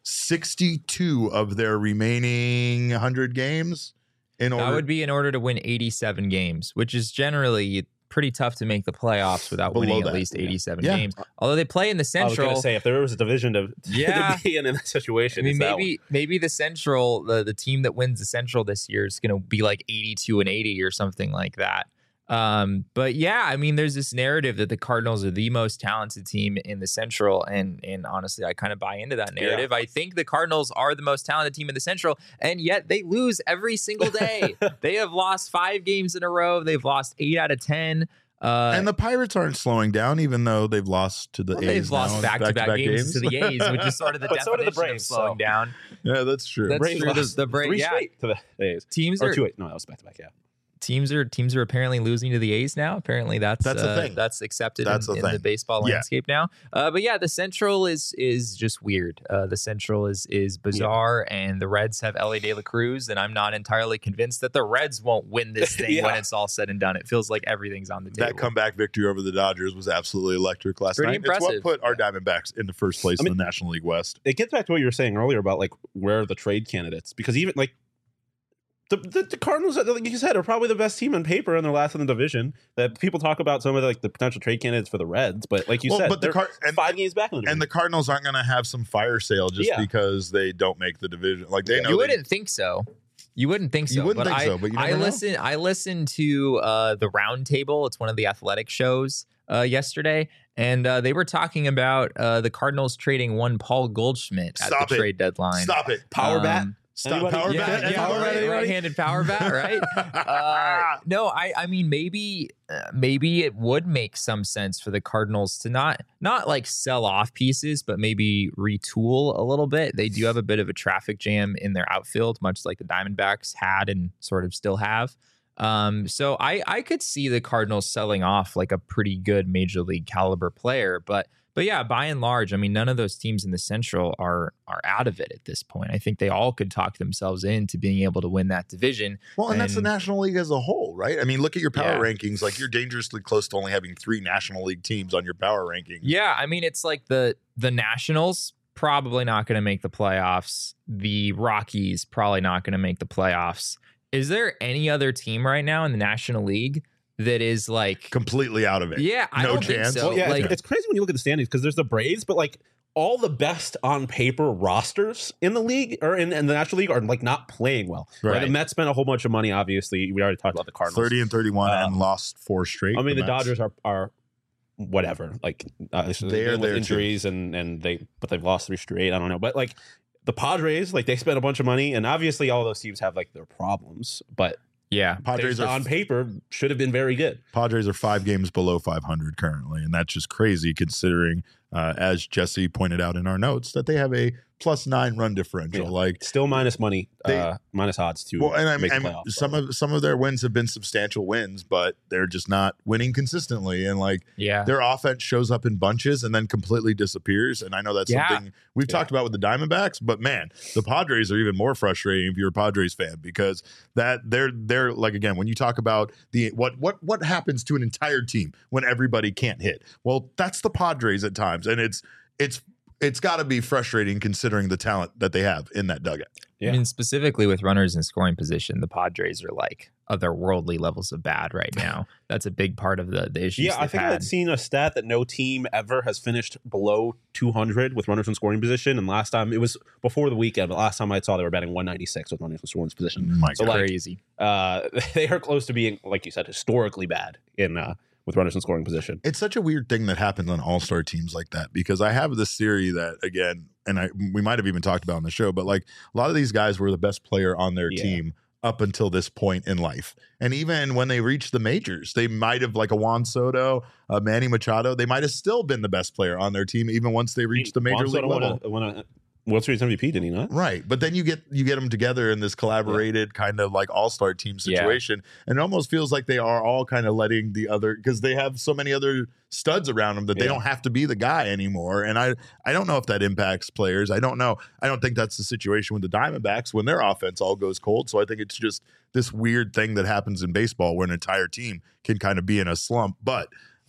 62 of their remaining 100 games in order. That would be in order to win 87 games, which is generally pretty tough to make the playoffs without winning at least 87 games. Although they play in the Central. I was going to say, if there was a division to be in that situation, I mean, maybe the Central, the team that wins the Central this year is going to be like 82 and 80 or something like that. But yeah, I mean, there's this narrative that the Cardinals are the most talented team in the Central, and honestly, I kind of buy into that narrative. I think the Cardinals are the most talented team in the Central, and yet they lose every single day. They have lost 5 games in a row. They've lost 8 out of 10. And the Pirates aren't slowing down, even though they've lost to the A's. They've lost back-to-back games to the A's, which is sort of the definition the Braves, of slowing down. Yeah, that's true. That's Braves true. lost The Braves, 3 straight to the A's. Teams or are 2-8. No, that was back-to-back, Teams are apparently losing to the A's now. Apparently that's a thing. That's accepted That's in the baseball landscape now. But yeah, the Central is just weird. The Central is bizarre, and the Reds have Elly De La Cruz, and I'm not entirely convinced that the Reds won't win this thing when it's all said and done. It feels like everything's on the table. That comeback victory over the Dodgers was absolutely electric last Pretty night. impressive. It's what put our Diamondbacks in the first place in the National League West. It gets back to what you were saying earlier about like where are the trade candidates, because even like the Cardinals, like you said, are probably the best team on paper, and they're last in the division. That people talk about some of the potential trade candidates for the Reds, but like you said, they're 5 games back in the division. And the Cardinals aren't going to have some fire sale just because they don't make the division. Like they know you wouldn't think so. You wouldn't think so. You wouldn't think so, but you never know. I listened to the Roundtable. It's one of the athletic shows yesterday, and they were talking about the Cardinals trading one Paul Goldschmidt at the trade deadline. Stop it. Power bat. Stop power bat. Right-handed power bat, right? No, I mean maybe it would make some sense for the Cardinals to not like sell off pieces, but maybe retool a little bit. They do have a bit of a traffic jam in their outfield, much like the Diamondbacks had and sort of still have. So I could see the Cardinals selling off like a pretty good major league caliber player, but yeah, by and large, I mean, none of those teams in the Central are out of it at this point. I think they all could talk themselves into being able to win that division. Well, and that's the National League as a whole, right? I mean, look at your power rankings. Like, you're dangerously close to only having 3 National League teams on your power rankings. Yeah, I mean, it's like the Nationals probably not going to make the playoffs. The Rockies probably not going to make the playoffs. Is there any other team right now in the National League that is like completely out of it? Yeah, I don't think so. Well, yeah, like, it's crazy when you look at the standings because there's the Braves, but like all the best on paper rosters in the league or in the National League are like not playing well. Right. The Mets spent a whole bunch of money. Obviously, we already talked about the Cardinals, 30 and 31, and lost 4 straight. I mean, the Dodgers are whatever. Like they're with injuries and they've lost 3 straight. I don't know, but like the Padres, like they spent a bunch of money, and obviously all those teams have like their problems, but Yeah. Padres are on paper should have been very good. Padres are 5 games below 500 currently, and that's just crazy considering, as Jesse pointed out in our notes, that they have a +9 run differential. Yeah. Like Still minus money, They- minus odds to well, and make the and playoffs. some of their wins have been substantial wins, but they're just not winning consistently. And like Yeah. their offense shows up in bunches and then completely disappears. And I know that's Yeah. something we've talked about with the Diamondbacks, but man, the Padres are even more frustrating if you're a Padres fan, because that they're like, again, when you talk about the what happens to an entire team when everybody can't hit. Well, that's the Padres at times, and it's got to be frustrating considering the talent that they have in that dugout. Yeah. I mean, specifically with runners in scoring position, the Padres are like otherworldly levels of bad right now. That's a big part of the issues. Yeah, I they've think I had. had seen a stat that no team ever has finished below 200 with runners in scoring position. And last time, it was before the weekend, but last time I saw they were batting 196 with runners in scoring position. My So, God. like, Crazy. They are close to being, like you said, historically bad in with runners in scoring position. It's such a weird thing that happens on all-star teams like that, because I have this theory that, again, and we might have even talked about on the show, but like a lot of these guys were the best player on their Yeah. team up until this point in life. And even when they reached the majors, they might have, like a Juan Soto, a Manny Machado, they might have still been the best player on their team even once they reached the major league level. Won a World Series MVP, didn't he not? Right. But then you get them together in this collaborated kind of like all-star team situation. And it almost feels like they are all kind of letting the other, because they have so many other studs around them that they Yeah. don't have to be the guy anymore. And I don't know if that impacts players. I don't know. I don't think that's the situation with the Diamondbacks when their offense all goes cold. So I think it's just this weird thing that happens in baseball where an entire team can kind of be in a slump. But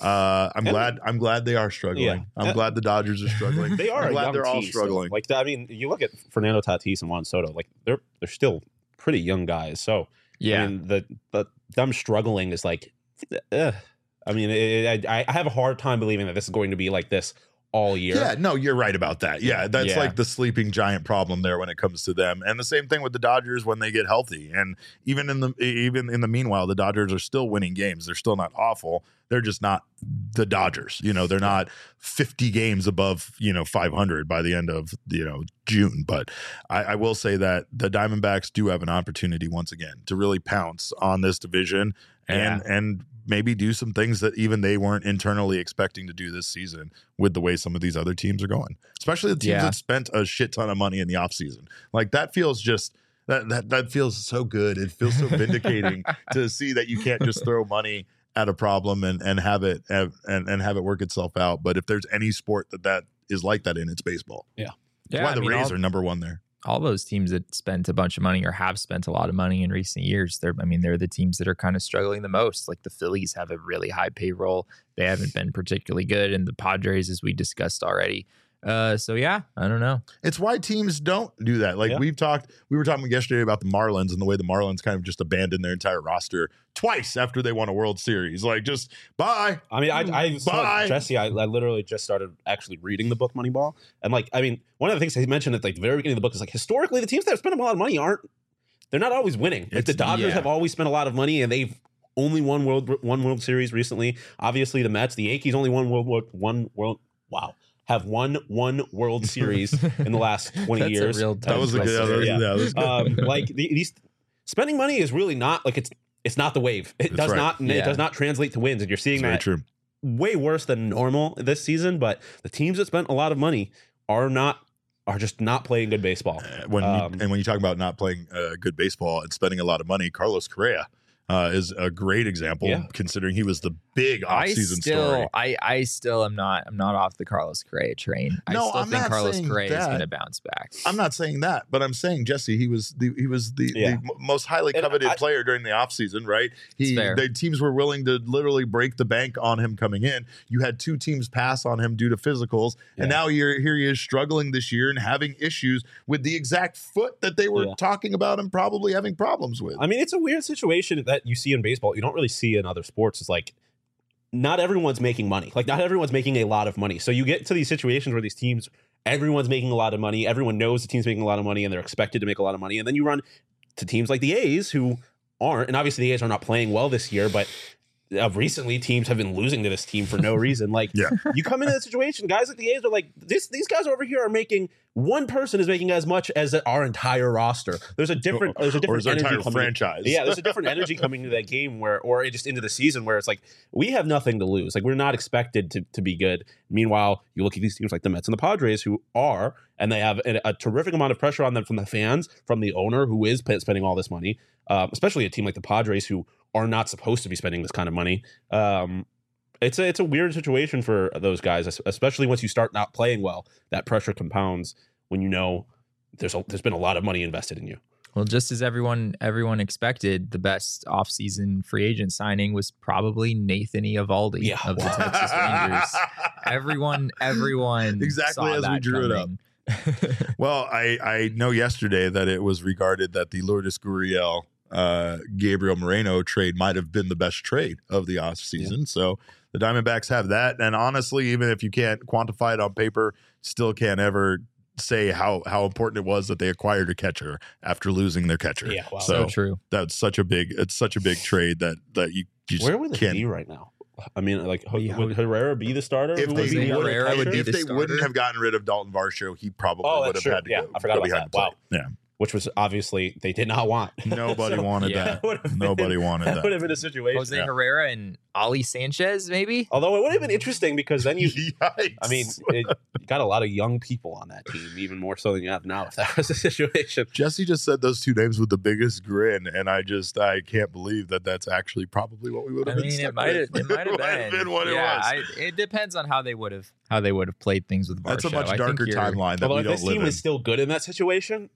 I'm glad they are struggling. Yeah. I'm glad the Dodgers are struggling. They are I'm a glad young they're all team still. struggling. Like, I mean, you look at Fernando Tatis and Juan Soto, like they're still pretty young guys. So Yeah. I mean, the them struggling is like, I mean, I have a hard time believing that this is going to be like this all year. Yeah, no, you're right about that. Yeah, that's Yeah. like the sleeping giant problem there when it comes to them. And the same thing with the Dodgers when they get healthy. And even in the meanwhile, the Dodgers are still winning games. They're still not awful. They're just not the Dodgers. You know, they're not 50 games above, 500 by the end of, June. But I will say that the Diamondbacks do have an opportunity once again to really pounce on this division and maybe do some things that even they weren't internally expecting to do this season with the way some of these other teams are going, especially the teams that spent a shit ton of money in the offseason. Like that feels just that feels so good. It feels so vindicating to see that you can't just throw money at a problem and have it and have it work itself out. But if there's any sport that is like that in, it's baseball. Yeah. That's why the Rays are number one there. All those teams that spent a bunch of money or have spent a lot of money in recent years, they're the teams that are kind of struggling the most. Like the Phillies have a really high payroll. They haven't been particularly good. And the Padres, as we discussed already. So yeah, I don't know. It's why teams don't do that. Like we were talking yesterday about the Marlins and the way the Marlins kind of just abandoned their entire roster twice after they won a World Series. Like just bye. I mean, I saw Bye. Jesse. I literally just started actually reading the book Moneyball, and like, I mean, one of the things he mentioned at like the very beginning of the book is like historically the teams that have spent a lot of money they're not always winning. Like the Dodgers have always spent a lot of money, and they've only won World Series recently. Obviously, the Mets, the Yankees only won have won one World Series in the last 20 That's years. a real That was a good. Yeah. That was good. Like these spending money is really not like it's not the wave. It That's does right. not it does not translate to wins, and you're seeing Very that true. way worse than normal this season. But the teams that spent a lot of money are just not playing good baseball. When you talk about not playing good baseball and spending a lot of money, Carlos Correa is a great example, considering he was the big offseason story. I still am not. I'm not off the Carlos Correa train. No, I still I'm think not Carlos saying Correa is that. going to bounce back. I'm not saying that, but I'm saying Jesse, he was the most highly coveted player during the offseason, right? The teams were willing to literally break the bank on him coming in. You had 2 teams pass on him due to physicals, and now here he is struggling this year and having issues with the exact foot that they were talking about and probably having problems with. I mean, it's a weird situation that you see in baseball. You don't really see in other sports. It's like not everyone's making money. Like not everyone's making a lot of money. So you get to these situations where these teams, everyone's making a lot of money. Everyone knows the team's making a lot of money and they're expected to make a lot of money. And then you run to teams like the A's who aren't. And obviously the A's are not playing well this year, but recently teams have been losing to this team for no reason. Like, you come into the situation, guys like the A's are like, these guys over here are making, one person is making as much as our entire roster. There's a different energy coming. Franchise. Yeah, there's a different energy coming into that game or just into the season where it's like, we have nothing to lose. Like, we're not expected to be good. Meanwhile, you look at these teams like the Mets and the Padres who are, and they have a terrific amount of pressure on them from the fans, from the owner who is spending all this money, especially a team like the Padres who are not supposed to be spending this kind of money. It's a weird situation for those guys, especially once you start not playing well. That pressure compounds when you know there's been a lot of money invested in you. Well, just as everyone expected, the best offseason free agent signing was probably Nathan Eovaldi of the Texas Rangers. Everyone exactly saw as we drew coming. it up. Well, I know yesterday that it was regarded that the Lourdes Gurriel Gabriel Moreno trade might have been the best trade of the off season. So the Diamondbacks have that. And honestly, even if you can't quantify it on paper, still can't ever say how important it was that they acquired a catcher after losing their catcher. Yeah, wow. So true. That's such a big trade that you just where would can't they be right now? I mean, like, would Herrera be the starter? If they the wouldn't have gotten rid of Dalton Varsho, he probably would have had to go. I forgot about that. Wow. Yeah. Which was obviously they did not want. Nobody wanted that. Nobody wanted that. That would have been a situation. Jose Herrera and Ali Sanchez, maybe? Although it would have been interesting because then you, Yikes. I mean, you got a lot of young people on that team, even more so than you have now if that was the situation. Jesse just said those two names with the biggest grin, and I can't believe that that's actually probably what we would have been. It might have been what it was. It depends on how they would have played things with Varsho. That's a much darker timeline that Although we if don't this live team in. is still good in that situation,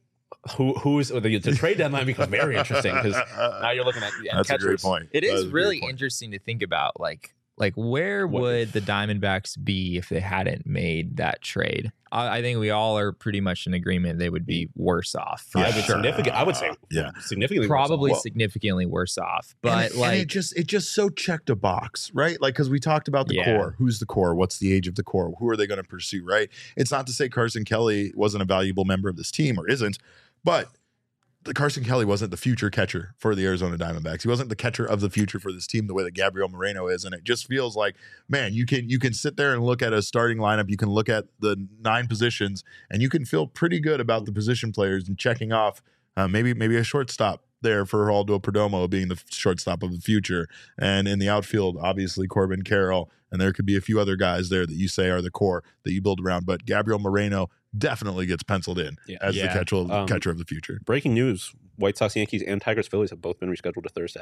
who's the trade deadline becomes very interesting because now you're looking at that's catchers. a great point. It is a really great point. interesting to think about, like where would the Diamondbacks be if they hadn't made that trade? I think we all are pretty much in agreement they would be worse off. Yeah, I would say significantly probably worse off. significantly worse off. But and it just so checked a box, right? Like, because we talked about the core. Who's the core? What's the age of the core? Who are they going to pursue, right? It's not to say Carson Kelly wasn't a valuable member of this team or isn't, but Carson Kelly wasn't the future catcher for the Arizona Diamondbacks. He wasn't the catcher of the future for this team the way that Gabriel Moreno is. And it just feels like, man, you can sit there and look at a starting lineup. You can look at the 9 positions and you can feel pretty good about the position players and checking off maybe a shortstop there for Geraldo Perdomo being the shortstop of the future. And in the outfield, obviously Corbin Carroll. And there could be a few other guys there that you say are the core that you build around. But Gabriel Moreno definitely gets penciled in as the catcher of the future. Breaking news: White Sox, Yankees, and Tigers, Phillies have both been rescheduled to Thursday.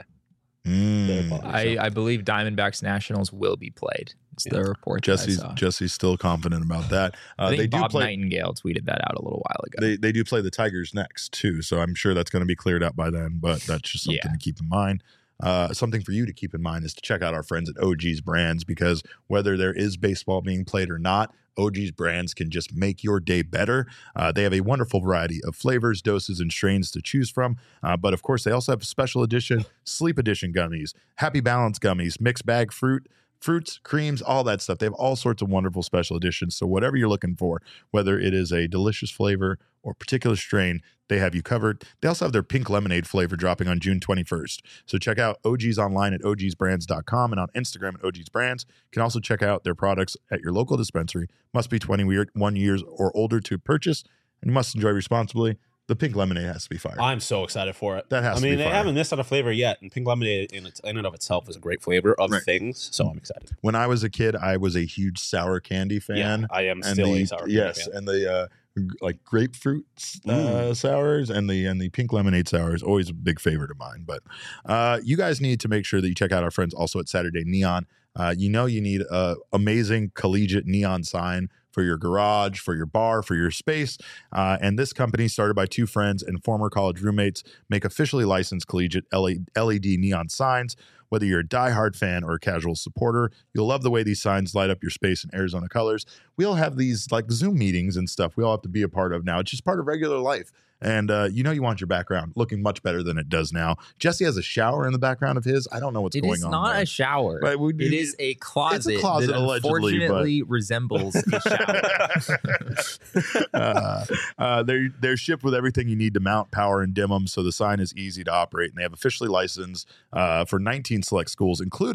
I believe Diamondbacks Nationals will be played. It's the report. Jesse's still confident about that. I think Bob Nightingale tweeted that out a little while ago. They do play the Tigers next too, so I'm sure that's going to be cleared out by then. But that's just something to keep in mind. Something for you to keep in mind is to check out our friends at OG's Brands, because whether there is baseball being played or not, OG's Brands can just make your day better. They have a wonderful variety of flavors, doses, and strains to choose from. But of course, they also have special edition, sleep edition gummies, Happy Balance gummies, mixed bag fruits, creams, all that stuff. They have all sorts of wonderful special editions. So whatever you're looking for, whether it is a delicious flavor or particular strain, they have you covered. They also have their pink lemonade flavor dropping on June 21st. So check out OG's online at ogsbrands.com and on Instagram at OG's Brands. You can also check out their products at your local dispensary. Must be 21 years or older to purchase, and you must enjoy responsibly. The pink lemonade has to be fire. I'm so excited for it. That has to be fire. They haven't missed on a flavor yet, and pink lemonade in and of itself is a great flavor of things, so I'm excited. When I was a kid, I was a huge sour candy fan. Yeah, I am still a sour candy fan. Yes, and the like grapefruit sours and the pink lemonade sour is always a big favorite of mine. But you guys need to make sure that you check out our friends also at Saturday Neon. You need an amazing collegiate neon sign for your garage, for your bar, for your space. And this company, started by 2 friends and former college roommates, make officially licensed collegiate LED neon signs. Whether you're a diehard fan or a casual supporter, you'll love the way these signs light up your space in Arizona colors. We all have these like Zoom meetings and stuff we all have to be a part of now. It's just part of regular life. And you want your background looking much better than it does now. Jesse has a shower in the background of his. I don't know what's going on. It is not a shower. Right, it is a closet. It's a closet, that allegedly, unfortunately resembles a shower. They're shipped with everything you need to mount, power, and dim them, so the sign is easy to operate. And they have officially licensed for 19 select schools, including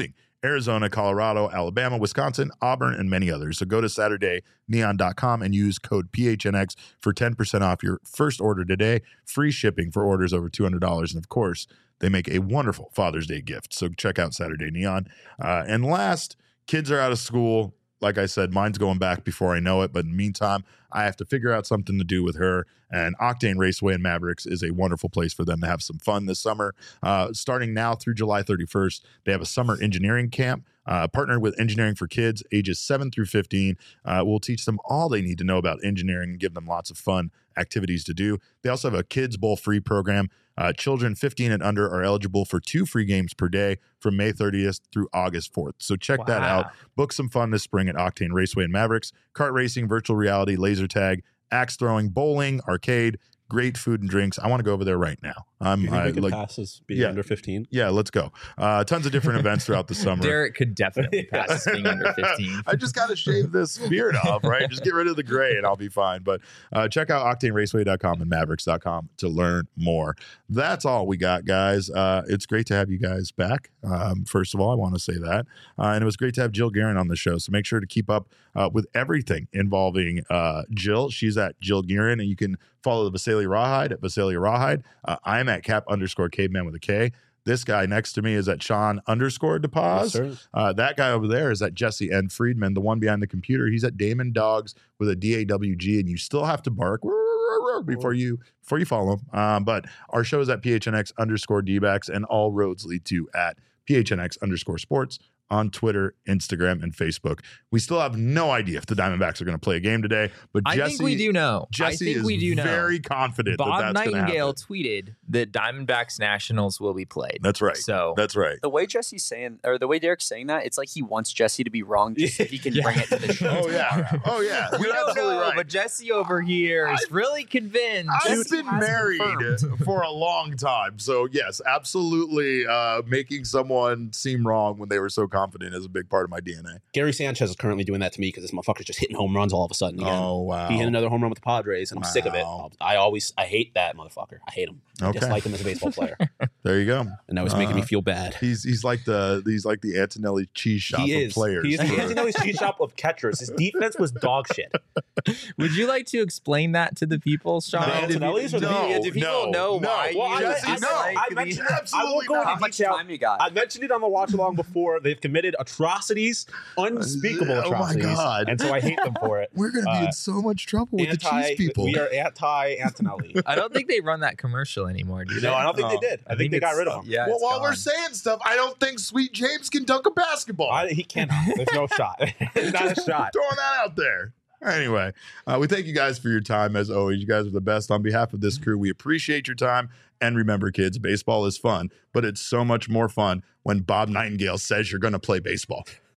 Arizona, Colorado, Alabama, Wisconsin, Auburn, and many others. So go to SaturdayNeon.com and use code PHNX for 10% off your first order today. Free shipping for orders over $200. And of course, they make a wonderful Father's Day gift. So check out Saturday Neon. And last, kids are out of school. Like I said, mine's going back before I know it. But in the meantime, I have to figure out something to do with her. And Octane Raceway and Mavericks is a wonderful place for them to have some fun this summer. Starting now through July 31st, they have a summer engineering camp. Partnered with Engineering for Kids, ages 7 through 15. We'll teach them all they need to know about engineering and give them lots of fun activities to do. They also have a Kids Bowl free program. Children 15 and under are eligible for 2 free games per day from May 30th through August 4th. So check that out. Book some fun this spring at Octane Raceway and Mavericks. Kart racing, virtual reality, laser tag, axe throwing, bowling, arcade, great food and drinks. I want to go over there right now. Pass as being under 15. Yeah, let's go. Tons of different events throughout the summer. Derek could definitely pass as being under 15. I just got to shave this beard off, right? Just get rid of the gray and I'll be fine. But check out octaneraceway.com and mavericks.com to learn more. That's all we got, guys. It's great to have you guys back. First of all, I want to say that. And it was great to have Jill Guerin on the show. So make sure to keep up with everything involving Jill. She's at Jill Guerin, and you can follow the Visalia Rawhide at Visalia Rawhide. I'm at Cap_Caveman with a K. This guy next to me is at Sean_DePaz. Yes, That guy over there is at Jesse N. Friedman, the one behind the computer. He's at Damon Dogs with a DAWG, and you still have to bark before you follow him. But our show is at PHNX_DBacks, and all roads lead to at PHNX_sports on Twitter, Instagram, and Facebook. We still have no idea if the Diamondbacks are going to play a game today, but I think we do know. Jesse is very confident Bob that that's going to happen. Nightingale tweeted that Diamondbacks Nationals will be played. That's right. So that's right. The way Jesse's saying, or the way Derek's saying that, it's like he wants Jesse to be wrong just so he can bring it to the show. Oh yeah. Oh yeah. we You're don't absolutely know, right. but Jesse over here is really convinced. I've been married for a long time. So yes, absolutely making someone seem wrong when they were so confident is a big part of my DNA. Gary Sanchez is currently doing that to me because this motherfucker's just hitting home runs all of a sudden again. Oh, wow. He hit another home run with the Padres, and I'm sick of it. I hate that motherfucker. I hate him. I dislike him as a baseball player. There you go. And that was making me feel bad. He's like the Antonelli cheese shop of players. He is the Antonelli's cheese shop of catchers. His defense was dog shit. Would you like to explain that to the people, Sean? Antonelli's or do people know why? Well, I mentioned it. I won't go into detail. Time you got? I mentioned it on the watch along before. They've committed atrocities, unspeakable atrocities. Oh my God. And so I hate them for it. We're going to be in so much trouble with the cheese people. We are anti-Antonelli. I don't think they run that commercial anymore, do they? No, I don't think they did. I think they got rid of him. Yeah. Well, it's while we're gone. saying stuff, I don't think Sweet James can dunk a basketball. He cannot. There's no shot. There's not a shot. Throwing that out there. Anyway, we thank you guys for your time as always. You guys are the best. On behalf of this crew, we appreciate your time. And remember, kids, baseball is fun, but it's so much more fun when Bob Nightingale says you're going to play baseball.